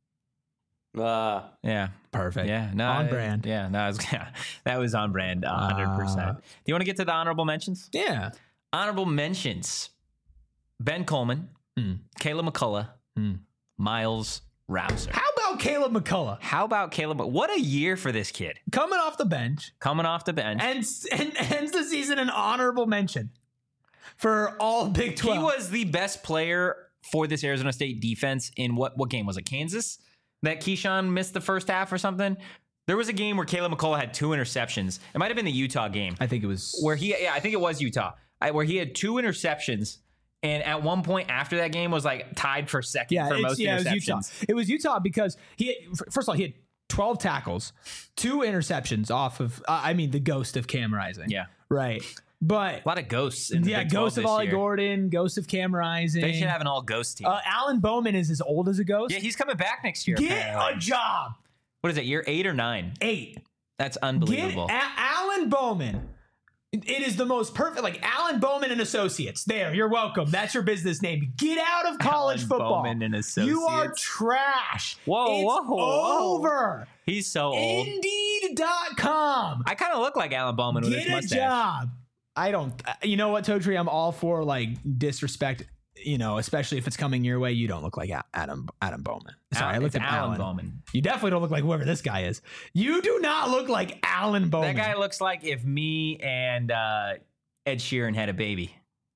Yeah, Perfect. yeah, no, On brand. Yeah, no, that was on brand, 100%. Do you want to get to the honorable mentions? Yeah. Honorable mentions: Ben Coleman, Kayla McCullough, Miles Rouser. How about Caleb McCullough? How about Caleb? What a year for this kid. Coming off the bench Coming off the bench. and ends the season an honorable mention for all Big 12. He was the best player for this Arizona State defense in what game was it? Kansas? That Keyshawn missed the first half or something? There was a game where Caleb McCullough had 2 interceptions. It might have been the Utah game. I think it was. I think it was Utah. Where he had 2 interceptions. And at one point after that game was like tied for second for most interceptions. It was Utah because first of all, he had 12 tackles, 2 interceptions off of, the ghost of Cam Rising. Yeah. Right. But A lot of ghosts in the Big 12 ghost of this Ollie year. Gordon, ghost of Cam Rising. They should have an all-ghost team. Alan Bowman is as old as a ghost. Yeah, he's coming back next year. Get apparently. a job. What is it, year 8 or 9? 8. That's unbelievable. Alan Bowman. It is the most perfect, like Alan Bowman and Associates. There, you're welcome. That's your business name. Get out of college Alan football. Bowman and Associates. You are trash. Whoa. Over. He's so old. Indeed.com. I kind of look like Alan Bowman with his Get a mustache. job. I don't. You know what, Totri? I'm all for like disrespect. especially if it's coming your way, you don't look like Adam Bowman. Sorry, I looked at Alan Bowman. You definitely don't look like whoever this guy is. You do not look like Alan Bowman. That guy looks like if me and Ed Sheeran had a baby.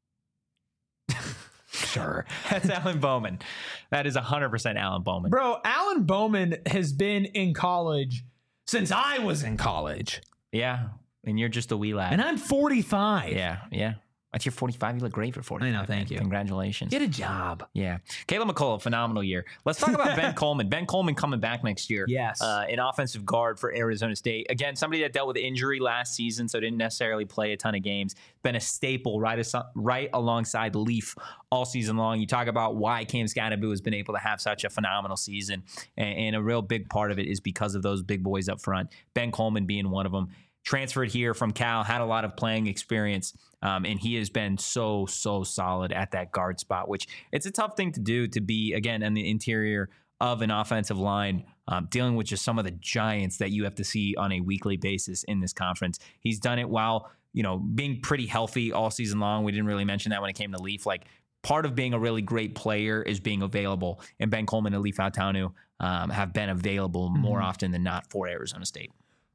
Sure. That's Alan Bowman. That is 100% Alan Bowman. Bro, Alan Bowman has been in college since I was in college. Yeah. And you're just a wee lad. And I'm 45. Yeah. At your 45, you look great for 45. I know, thank you. Congratulations. Get a job. Yeah. Caleb McCullough, phenomenal year. Let's talk about Ben Coleman. Ben Coleman coming back next year. Yes. An offensive guard for Arizona State. Again, somebody that dealt with injury last season, so didn't necessarily play a ton of games. Been a staple right alongside Leaf all season long. You talk about why Cam Scadaboo has been able to have such a phenomenal season, and a real big part of it is because of those big boys up front. Ben Coleman being one of them. Transferred here from Cal, had a lot of playing experience, and he has been so solid at that guard spot, which it's a tough thing to do, to be, again, in the interior of an offensive line, dealing with just some of the giants that you have to see on a weekly basis in this conference. He's done it while, being pretty healthy all season long. We didn't really mention that when it came to Leaf. Like, part of being a really great player is being available, and Ben Coleman and Leaf Autanu have been available more often than not for Arizona State.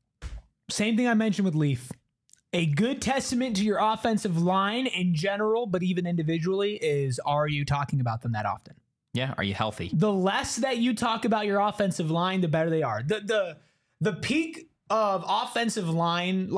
Same thing I mentioned with Leaf. A good testament to your offensive line in general, but even individually, is, are you talking about them that often? Yeah. Are you healthy? The less that you talk about your offensive line, the better they are. The peak of offensive line,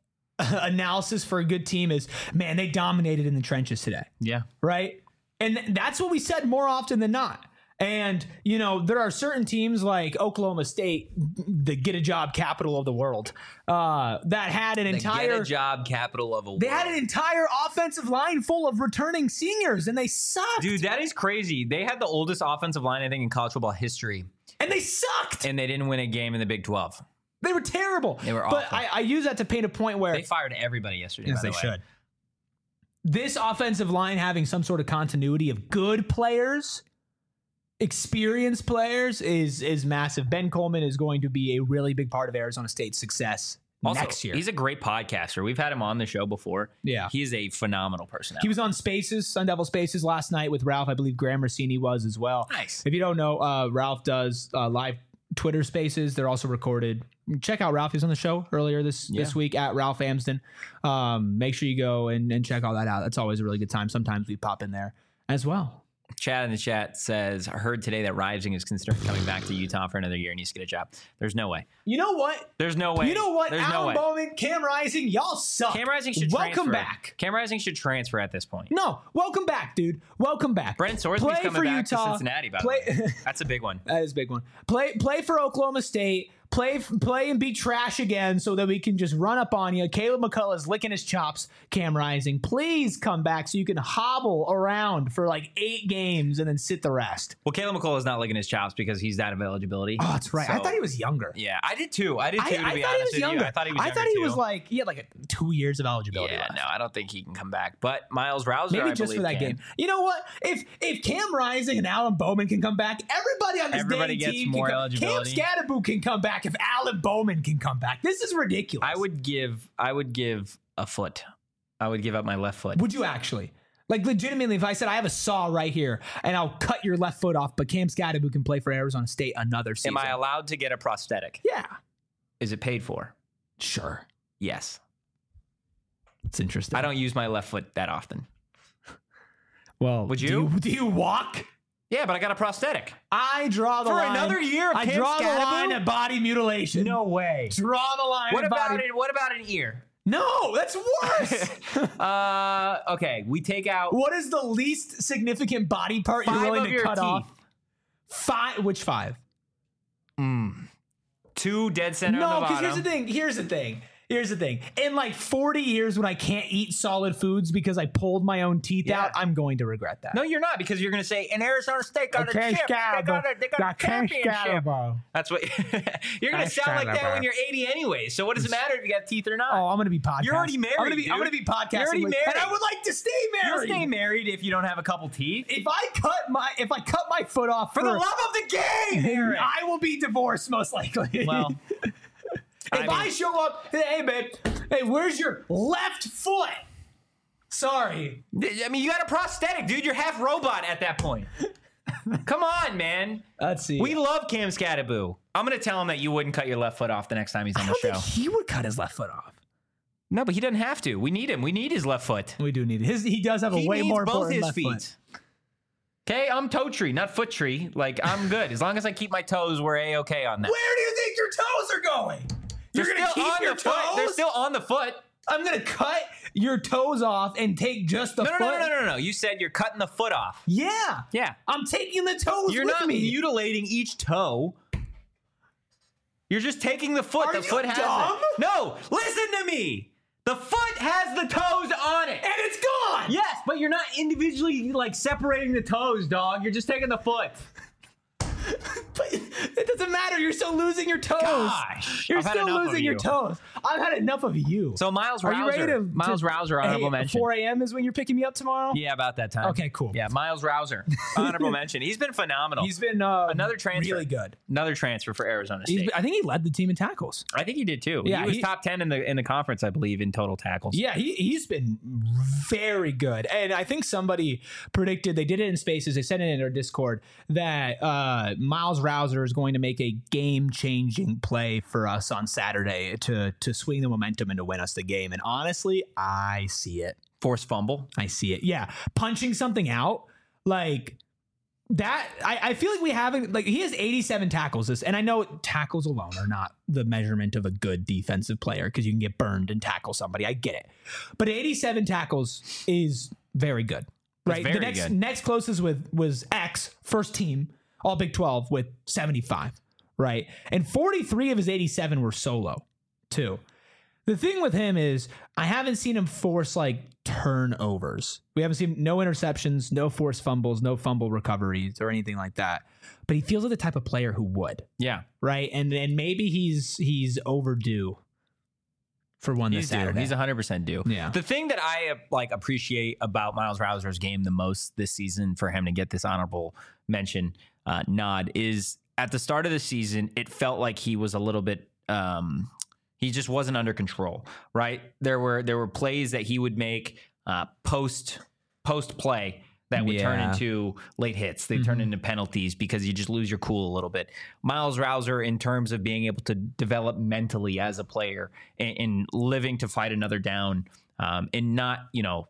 analysis for a good team is, man, they dominated in the trenches today. Yeah. Right? And that's what we said more often than not. And, there are certain teams like Oklahoma State, the get a job capital of the world, that had an entire get a job capital of a world. They had an entire offensive line full of returning seniors, and they sucked. Dude, that is crazy. They had the oldest offensive line, I think, in college football history. And they sucked. And they didn't win a game in the Big 12. They were terrible. They were awful. But I use that to paint a point where they fired everybody yesterday. Yes, by the they way. should. This offensive line having some sort of continuity of good players, experienced players, is massive. Ben Coleman is going to be a really big part of Arizona State's success next year. He's a great podcaster. We've had him on the show before. Yeah. He is a phenomenal personality. He was on Spaces, Sun Devil Spaces last night with Ralph. I believe Graham Rossini was as well. Nice. If you don't know, Ralph does live Twitter Spaces. They're also recorded. Check out Ralph. He was on the show earlier this week at Ralph Amsden. Make sure you go and check all that out. That's always a really good time. Sometimes we pop in there as well. Chad in the chat says, I heard today that Rising is considering coming back to Utah for another year and he's going to get a job. There's no way. You know what? There's no way. You know what? There's Alan no way. Bowman, Cam Rising, y'all suck. Cam Rising should Welcome transfer. back. Cam Rising should transfer at this point. No, welcome back, dude. Welcome back. Brent Sorsby's coming back to Cincinnati, by the way. That's a big one. That is a big one. Play for Oklahoma State. Play and be trash again so that we can just run up on you. Caleb McCullough is licking his chops. Cam Rising, please come back so you can hobble around for 8 games and then sit the rest. Well, Caleb McCullough is not licking his chops because he's out of eligibility. Oh, that's right. So, I thought he was younger. Yeah, I did too. To be honest with you. I thought he was younger he had 2 years of eligibility. Yeah, left. no, I don't think he can come back. But Miles Rouser, maybe I just for that can. game. You know what? If Cam Rising and Alan Bowman can come back, everybody on this dang gets team more can come. eligibility. Cam Scadaboo can come back if Alan Bowman can come back. This is ridiculous. I would give a foot. I would give up my left foot. Would you actually? Legitimately, if I said I have a saw right here and I'll cut your left foot off, but Cam Scadaboo can play for Arizona State another season. Am I allowed to get a prosthetic? Yeah. Is it paid for? Sure. Yes. It's interesting. I don't use my left foot that often. Well, would you? Do you walk? Yeah, but I got a prosthetic. I draw the line. For another year of I Cam draw the Scadaboo? line at body mutilation. No way. Draw the line What at about body. it? What about an ear? No, that's worse. Okay, we take out What is the least significant body part you're 5 willing of to your cut teeth. off? 5. Which 5? 2 dead center on No, the because bottom. here's the thing. In 40 years when I can't eat solid foods because I pulled my own teeth Yeah. out, I'm going to regret that. No, you're not, because you're going to say, and Arizona State got a chip. They got a championship. That's what you're going to sound like that when you're 80 anyway. So what does it matter if you got teeth or not? Oh, I'm going to be podcasting. You're already married, I'm going to dude. be podcasting. You're already and married. I would like to stay You'll married. stay married if you don't have a couple teeth. If I cut my foot off For the love of the game, Eric. I will be divorced most likely. Well, if I show up, hey babe, hey, where's your left foot? Sorry. I mean, you got a prosthetic, dude. You're half robot at that point. Come on, man. Let's see. We love Cam Scattaboo. I'm going to tell him that you wouldn't cut your left foot off the next time he's on the show. He would cut his left foot off. No, but he doesn't have to. We need him. We need his left foot. We do need it. He does have a way more important left foot. Okay, I'm toe tree, not foot tree. Like, I'm good. As long as I keep my toes, we're A-okay on that. Where do you think your toes are going? You're going to keep your toes? They're still on the foot. I'm going to cut your toes off and take just the foot? No. You said you're cutting the foot off. Yeah. Yeah. I'm taking the toes You're with not me. mutilating each toe. You're just taking the foot. Are the you foot has dumb? it. No, listen to me. The foot has the toes on it. And it's gone. Yes, but you're not individually like separating the toes, dog. You're just taking the foot. But it doesn't matter. You're still losing your toes. Gosh, You're I've had still enough of losing your you. toes. I've had enough of you. So Miles Are you ready Rouser. to Miles Rouser, honorable mention. 4 a.m. is when you're picking me up tomorrow? Yeah, about that time. Okay, cool. Yeah, Miles Rouser, honorable mention. He's been phenomenal. He's been another transfer. really good. Another transfer for Arizona State. I think he led the team in tackles. I think he did too. Yeah, he was he- top 10 in the conference, I believe, in total tackles. Yeah, he's been very good. And I think somebody predicted, they did it in Spaces, they said it in our Discord, that Miles Rouser is going to make a game-changing play for us on Saturday to swing the momentum and to win us the game. And honestly, I see it. Forced fumble. I see it. Yeah. Punching something out like that. I feel like we haven't, like, he has 87 tackles this, and I know tackles alone are not the measurement of a good defensive player because you can get burned and tackle somebody. I get it. But 87 tackles is very good. Right. very The good. next closest was X, first team, all Big 12 with 75. Right. And 43 of his 87 were solo too. The thing with him is I haven't seen him force like turnovers. We haven't seen no interceptions, no forced fumbles, no fumble recoveries or anything like that. But he feels like the type of player who would. Yeah. Right. And maybe he's overdue for one this Saturday. He's 100% due. Yeah. The thing that I appreciate about Miles Rouser's game the most this season for him to get this honorable mention nod is at the start of the season, it felt like he was a little bit he just wasn't under control, right? There were plays that he would make post play that would turn into late hits. They turn into penalties because you just lose your cool a little bit. Miles Rouser, in terms of being able to develop mentally as a player and living to fight another down and not,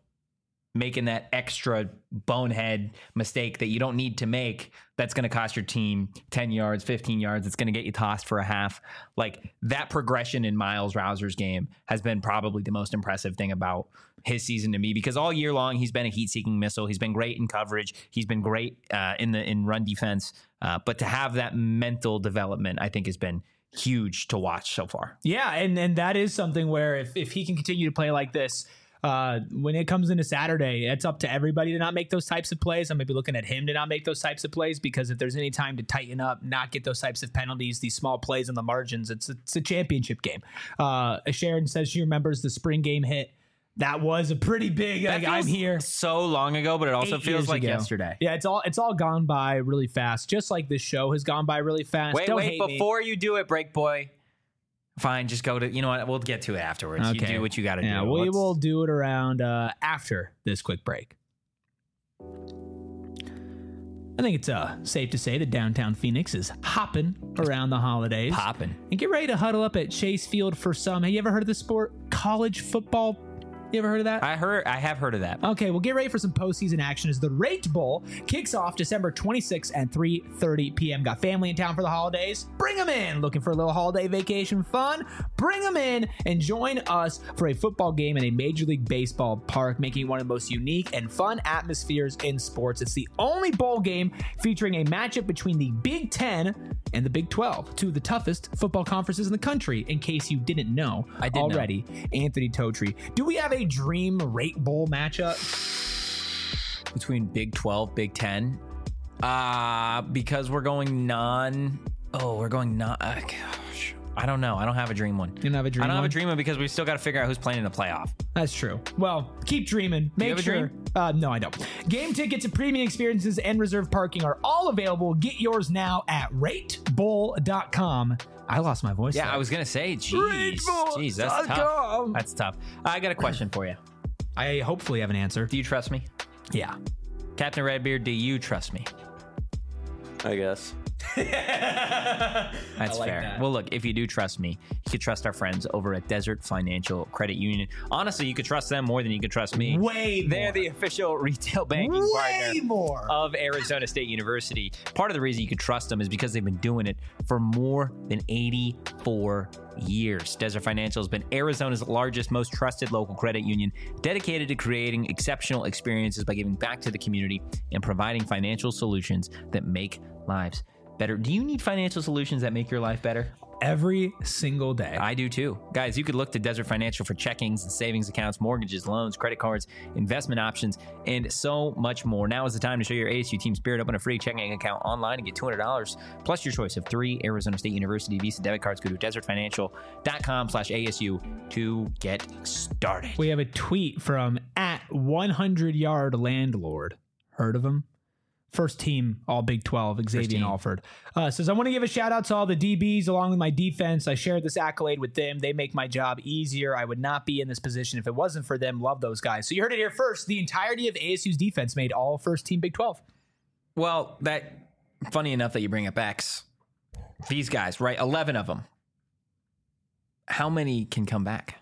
making that extra bonehead mistake that you don't need to make that's going to cost your team 10 yards, 15 yards. It's going to get you tossed for a half. Like that progression in Miles Rouser's game has been probably the most impressive thing about his season to me, because all year long he's been a heat-seeking missile. He's been great in coverage. He's been great in run defense. But to have that mental development, I think has been huge to watch so far. Yeah, and that is something where if he can continue to play like this, when it comes into Saturday, it's up to everybody to not make those types of plays. I'm maybe looking at him to not make those types of plays, because if there's any time to tighten up, not get those types of penalties, these small plays on the margins, it's a championship game. Sharon says she remembers the spring game hit. That was a pretty big. That I'm here. So long ago, but it also 8 feels years like ago. yesterday. Yeah, it's all gone by really fast, just like this show has gone by really fast. Wait, Don't hate me. before you do it, Break Boy. Fine, just go to, you know what, we'll get to it afterwards. Okay. You do what you got to Yeah, do. we will do it around after this quick break. I think it's safe to say that downtown Phoenix is hopping around the holidays. Popping. And get ready to huddle up at Chase Field for some. Have you ever heard of the sport? College football? You ever heard of that? I have heard of that. Okay, well, get ready for some postseason action as the Rate Bowl kicks off December 26th at 3:30 p.m. Got family in town for the holidays? Bring them in. Looking for a little holiday vacation fun? Bring them in and join us for a football game in a Major League Baseball park, making it one of the most unique and fun atmospheres in sports. It's the only bowl game featuring a matchup between the Big Ten and the Big 12, two of the toughest football conferences in the country, in case you didn't know I did already. Anthony Totri. Do we have a dream Rate Bowl matchup Between Big 12, Big 10. Because we're going gosh. I don't know. I don't have a dream one. You don't have a dream I don't have one? a dream one because we still got to figure out who's playing in the playoff. That's true. Well, keep dreaming. Make you have a sure. dream? No, I don't. Game tickets and premium experiences and reserved parking are all available. Get yours now at ratebowl.com. I lost my voice. Yeah, there. I was going to say, jeez, that's tough. That's tough. I got a question for you. I hopefully have an answer. Do you trust me? Yeah. Captain Redbeard, do you trust me? I guess. That's like fair. that. Well, look, if you do trust me, you could trust our friends over at Desert Financial Credit Union. Honestly, you could trust them more than you could trust me. Way They're more. the official retail banking Way partner more. of Arizona State University. Part of the reason you could trust them is because they've been doing it for more than 84 years. Desert Financial has been Arizona's largest, most trusted local credit union, dedicated to creating exceptional experiences by giving back to the community and providing financial solutions that make lives better. Do you need financial solutions that make your life better? Every single day. I do too. Guys, you could look to Desert Financial for checkings and savings accounts, mortgages, loans, credit cards, investment options, and so much more. Now is the time to show your ASU team spirit. Open a free checking account online and get $200 plus your choice of 3 Arizona State University Visa debit cards. Go to desertfinancial.com/ASU to get started. We have a tweet from @100yard landlord. Heard of him? First team All Big 12, Xavier team. Alford. Says, I want to give a shout out to all the DBs along with my defense. I shared this accolade with them. They make my job easier. I would not be in this position if it wasn't for them. Love those guys. So you heard it here first. The entirety of ASU's defense made all first team Big 12. Well, funny enough that you bring up X. These guys, right? 11 of them. How many can come back?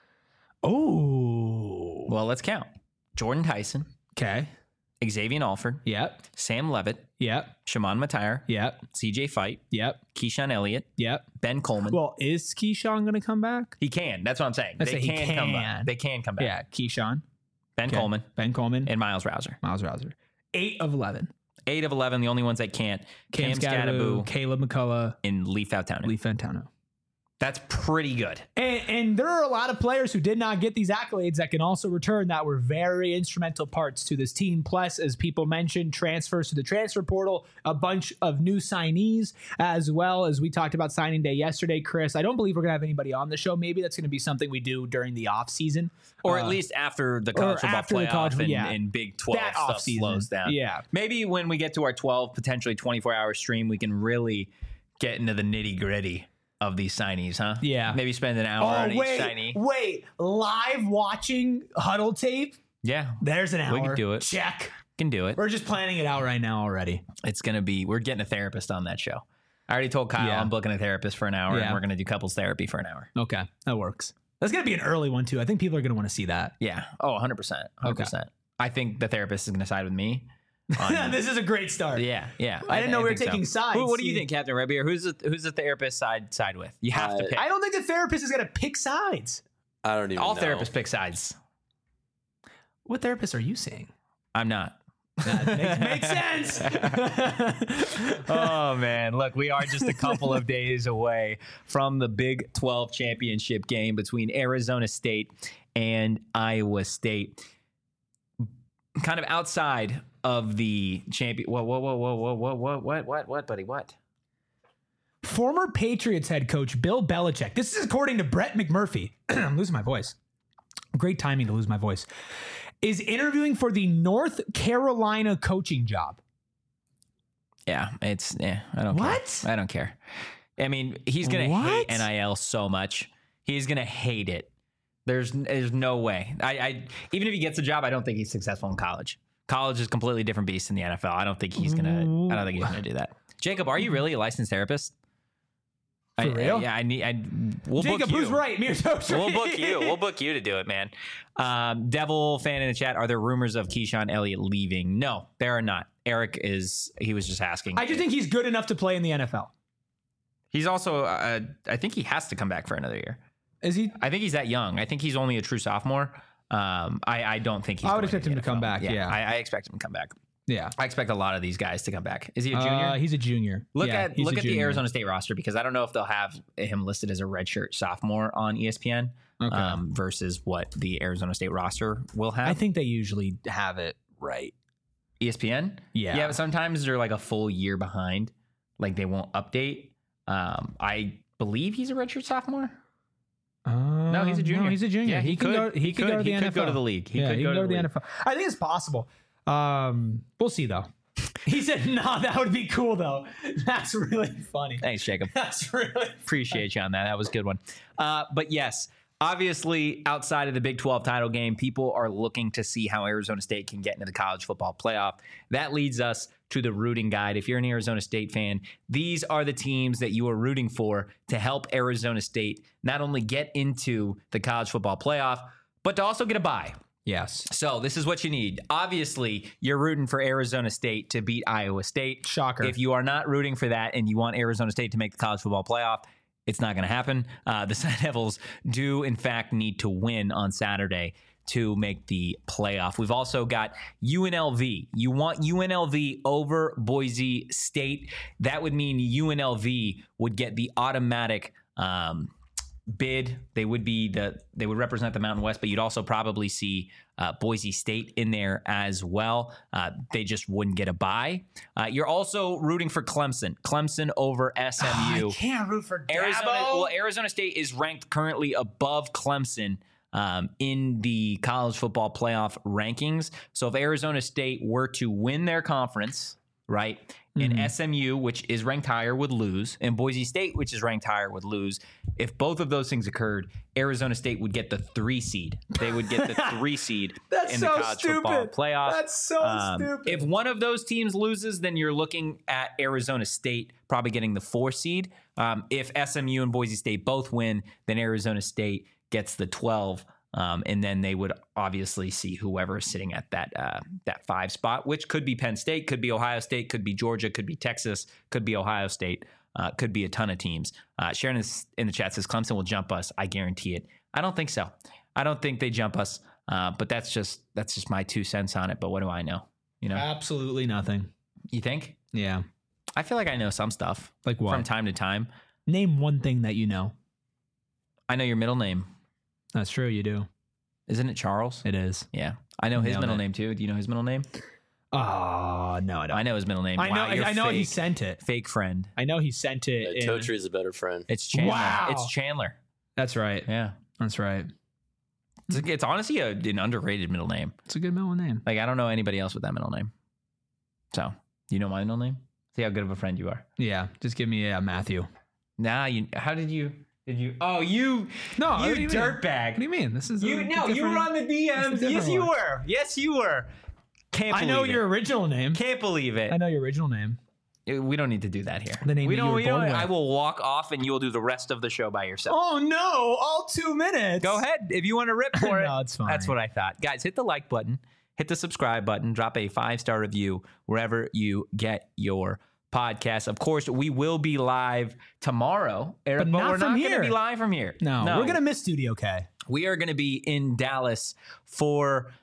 Oh. Well, let's count. Jordan Tyson, Okay. Xavier Alford, Yep. Sam Levitt, Yep. Shimon Matire, Yep. CJ Fight, Yep. Keyshawn Elliott, Yep. Ben Coleman. Well, is Keyshawn going to come back? He can. That's what I'm saying. I They say he can come back. can. They can come back. Yeah. Keyshawn. Ben Okay. Coleman Ben Coleman. and Miles Rouser. Miles Rouser. 8 of 11. 8 of 11. The only ones that can't. Cam Scattaboo Caleb McCullough, and Lee Foutowner. Lee Fantano. That's pretty good. And there are a lot of players who did not get these accolades that can also return that were very instrumental parts to this team. Plus, as people mentioned, transfers to the transfer portal, a bunch of new signees, as well as we talked about signing day yesterday, Chris. I don't believe we're going to have anybody on the show. Maybe that's going to be something we do during the off season. Or at least after the college football after the playoff college- and, yeah. and Big 12 That stuff offseason. slows down. Yeah. Maybe when we get to our 12, potentially 24-hour stream, we can really get into the nitty-gritty of these signees, huh? Yeah. Maybe spend an hour on each signee. wait. Live watching huddle tape? Yeah. There's an hour. We can do it. Check. Can do it. We're just planning it out right now already. It's going to be, we're getting a therapist on that show. I already told Kyle Yeah. I'm booking a therapist for an hour Yeah. and we're going to do couples therapy for an hour. Okay. That works. That's going to be an early one, too. I think people are going to want to see that. Yeah. Oh, 100%. 100%. I think the therapist is going to side with me. This is a great start. Yeah. I didn't know we were think so. taking sides. What do you See- think, Captain Redbeard? Who's the therapist side with? You have to pick. I don't think the therapist is going to pick sides. I don't even All know. therapists pick sides. What therapist are you seeing? I'm not. Makes sense. Oh man, look, we are just a couple of days away from the Big 12 championship game between Arizona State and Iowa State. Kind of outside of the champion. What, buddy? What? Former Patriots head coach Bill Belichick. This is according to Brett McMurphy. I'm losing my voice. Great timing to lose my voice. Is interviewing for the North Carolina coaching job. Yeah, I don't What? care. I don't care. I mean, he's going to hate NIL so much. He's going to hate it. There's no way. I even if he gets a job, I don't think he's successful in college. College is a completely different beast in the NFL. I don't think he's gonna do that. Jacob, are you really a licensed therapist? For real? We'll Jacob, book you. who's right? Me or Toshi? We'll book you. We'll book you to do it, man. Devil fan in the chat. Are there rumors of Keyshawn Elliott leaving? No, there are not. Eric he was just asking. I just think he's good enough to play in the NFL. He's also, I think he has to come back for another year. Is he? I think he's that young. I think he's only a true sophomore. I don't think he's I would going expect him to come NFL. back, yeah. I expect him to come back. Yeah. I expect a lot of these guys to come back. Is he a junior? He's a junior. Look Yeah, at he's a the junior. Arizona State roster, because I don't know if they'll have him listed as a redshirt sophomore on ESPN versus what the Arizona State roster will have. I think they usually have it right. ESPN? Yeah. Yeah, but sometimes they're like a full year behind. Like they won't update. I believe he's a redshirt sophomore. No, he's a junior. No, he's a junior. Yeah, he could go to the NFL. go to the league. He could go to the NFL. I think it's possible. We'll see though. He said, "No, that would be cool though." That's really funny. Thanks, Jacob. That's really Appreciate you on that. That was a good one. But yes, Obviously, outside of the Big 12 title game, people are looking to see how Arizona State can get into the college football playoff. That leads us to the rooting guide. If you're an Arizona State fan, these are the teams that you are rooting for to help Arizona State not only get into the college football playoff, but to also get a bye. Yes. So this is what you need. Obviously, you're rooting for Arizona State to beat Iowa State. Shocker. If you are not rooting for that and you want Arizona State to make the college football playoff, it's not going to happen. The Sun Devils do, in fact, need to win on Saturday to make the playoff. We've also got UNLV. You want UNLV over Boise State. That would mean UNLV would get the automatic bid. They would represent the Mountain West, but you'd also probably see Boise State in there as well. They just wouldn't get a bye. You're also rooting for Clemson over SMU. I can't root for Arizona. Arizona State is ranked currently above Clemson in the college football playoff rankings. So if Arizona State were to win their conference, right, and SMU, which is ranked higher, would lose, and Boise State, which is ranked higher, would lose. If both of those things occurred, Arizona State would get the 3 seed. They would get the 3 seed in the college football playoff. That's so stupid. If one of those teams loses, then you're looking at Arizona State probably getting the 4 seed. If SMU and Boise State both win, then Arizona State gets the 12. And then they would obviously see whoever is sitting at that 5 spot, which could be Penn State, could be Ohio State, could be Georgia, could be Texas, could be Ohio State, could be a ton of teams. Sharon in the chat says Clemson will jump us. I guarantee it. I don't think so. I don't think they jump us. But that's just my 2 cents on it. But what do I know? You know, absolutely nothing. You think? Yeah. I feel like I know some stuff. Like what? From time to time. Name one thing that you know. I know your middle name. That's true. You do. Isn't it Charles? It is. Yeah. I know his middle name too. Do you know his middle name? Oh, no, I don't. I know his middle name. I know he sent it. Fake friend. I know he sent it. Totri is a better friend. It's Chandler. Wow. It's Chandler. That's right. Yeah. That's right. It's honestly an underrated middle name. It's a good middle name. Like, I don't know anybody else with that middle name. So, you know my middle name? See how good of a friend you are. Yeah. Just give me Matthew. Nah, how did you... Oh, you dirtbag. What do you mean? This is you were on the DMs. Yes, you were. Yes, you were. Can't believe I know it. your original name. Can't believe it. I know your original name. We don't need to do that here. The name we that don't. you were born with. I will walk off, and you will do the rest of the show by yourself. Oh no! All 2 minutes. Go ahead if you want to rip for it. No, it's fine. That's what I thought, guys. Hit the like button, hit the subscribe button, drop a 5-star review wherever you get your podcast. Of course, we will be live tomorrow, Eric, but we're not going to be live from here. No, we're going to miss Studio K. We are going to be in Dallas for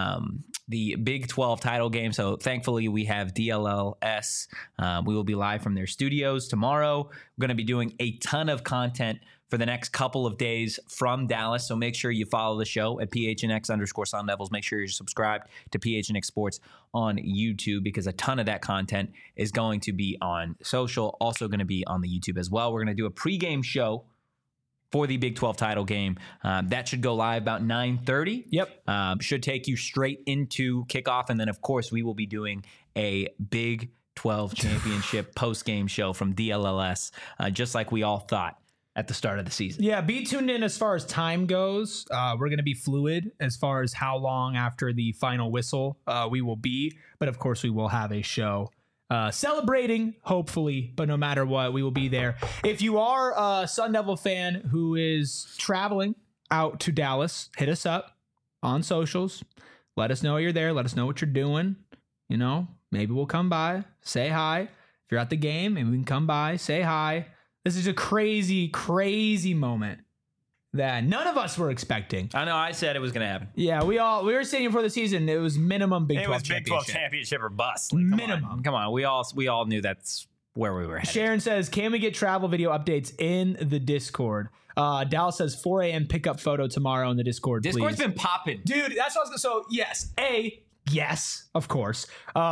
the Big 12 title game. So thankfully, we have DLLS. We will be live from their studios tomorrow. We're going to be doing a ton of content for the next couple of days from Dallas. So make sure you follow the show at PHNX_Sun Devils. Make sure you're subscribed to PHNX Sports on YouTube because a ton of that content is going to be on social, also going to be on the YouTube as well. We're going to do a pregame show for the Big 12 title game. That should go live about 9:30. Yep. Should take you straight into kickoff. And then, of course, we will be doing a Big 12 championship post-game show from DLLS, just like we all thought at the start of the season. Yeah, be tuned in as far as time goes. We're going to be fluid as far as how long after the final whistle we will be. But, of course, we will have a show celebrating, hopefully, but no matter what, we will be there. If you are a Sun Devil fan who is traveling out to Dallas, hit us up on socials. Let us know you're there. Let us know what you're doing. You know, maybe we'll come by, say hi. If you're at the game, maybe we can come by, say hi. This is a crazy, crazy moment that none of us were expecting. I know. I said it was going to happen. Yeah, we were saying before the season it was minimum Big 12 championship. Big 12 championship or bust. Like, minimum. Come on. We all knew that's where we were headed. Sharon says, can we get travel video updates in the Discord? Dallas says 4 a.m. pickup photo tomorrow in the Discord, Discord's please. been popping. Dude, that's what I was going to say. So, yes. A, yes, of course.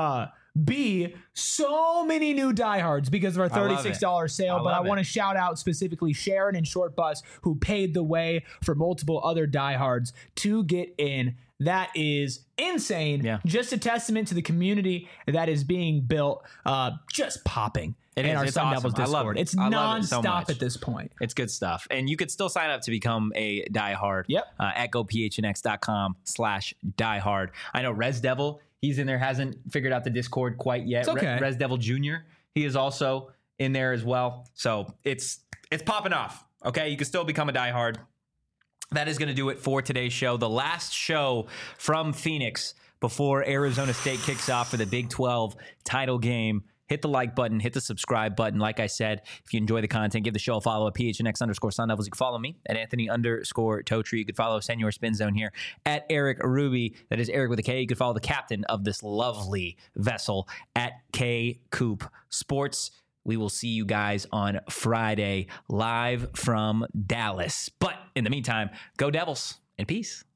B, so many new diehards because of our $36 sale. But I want to shout out specifically Sharon and Short Bus, who paid the way for multiple other diehards to get in That is insane. Yeah. Just a testament to the community that is being built, just popping It in is. our It's Sun awesome. Devils I love Discord. it. It's I love it so nonstop much. at this point. It's good stuff. And you could still sign up to become a diehard. Yep. At gophnx.com/diehard. I know Res Devil, he's in there, hasn't figured out the Discord quite yet. It's okay. Res Devil Jr., he is also in there as well. So it's popping off. Okay. You can still become a diehard. That is going to do it for today's show. The last show from Phoenix before Arizona State kicks off for the Big 12 title game. Hit the like button, hit the subscribe button. Like I said, if you enjoy the content, give the show a follow at PHNX_Sun Devils. You can follow me at Anthony_Totri. You can follow Senor Spin Zone here at Eric Ruby. That is Eric with a K. You can follow the captain of this lovely vessel at K Coop Sports. We will see you guys on Friday live from Dallas. But in the meantime, go Devils and peace.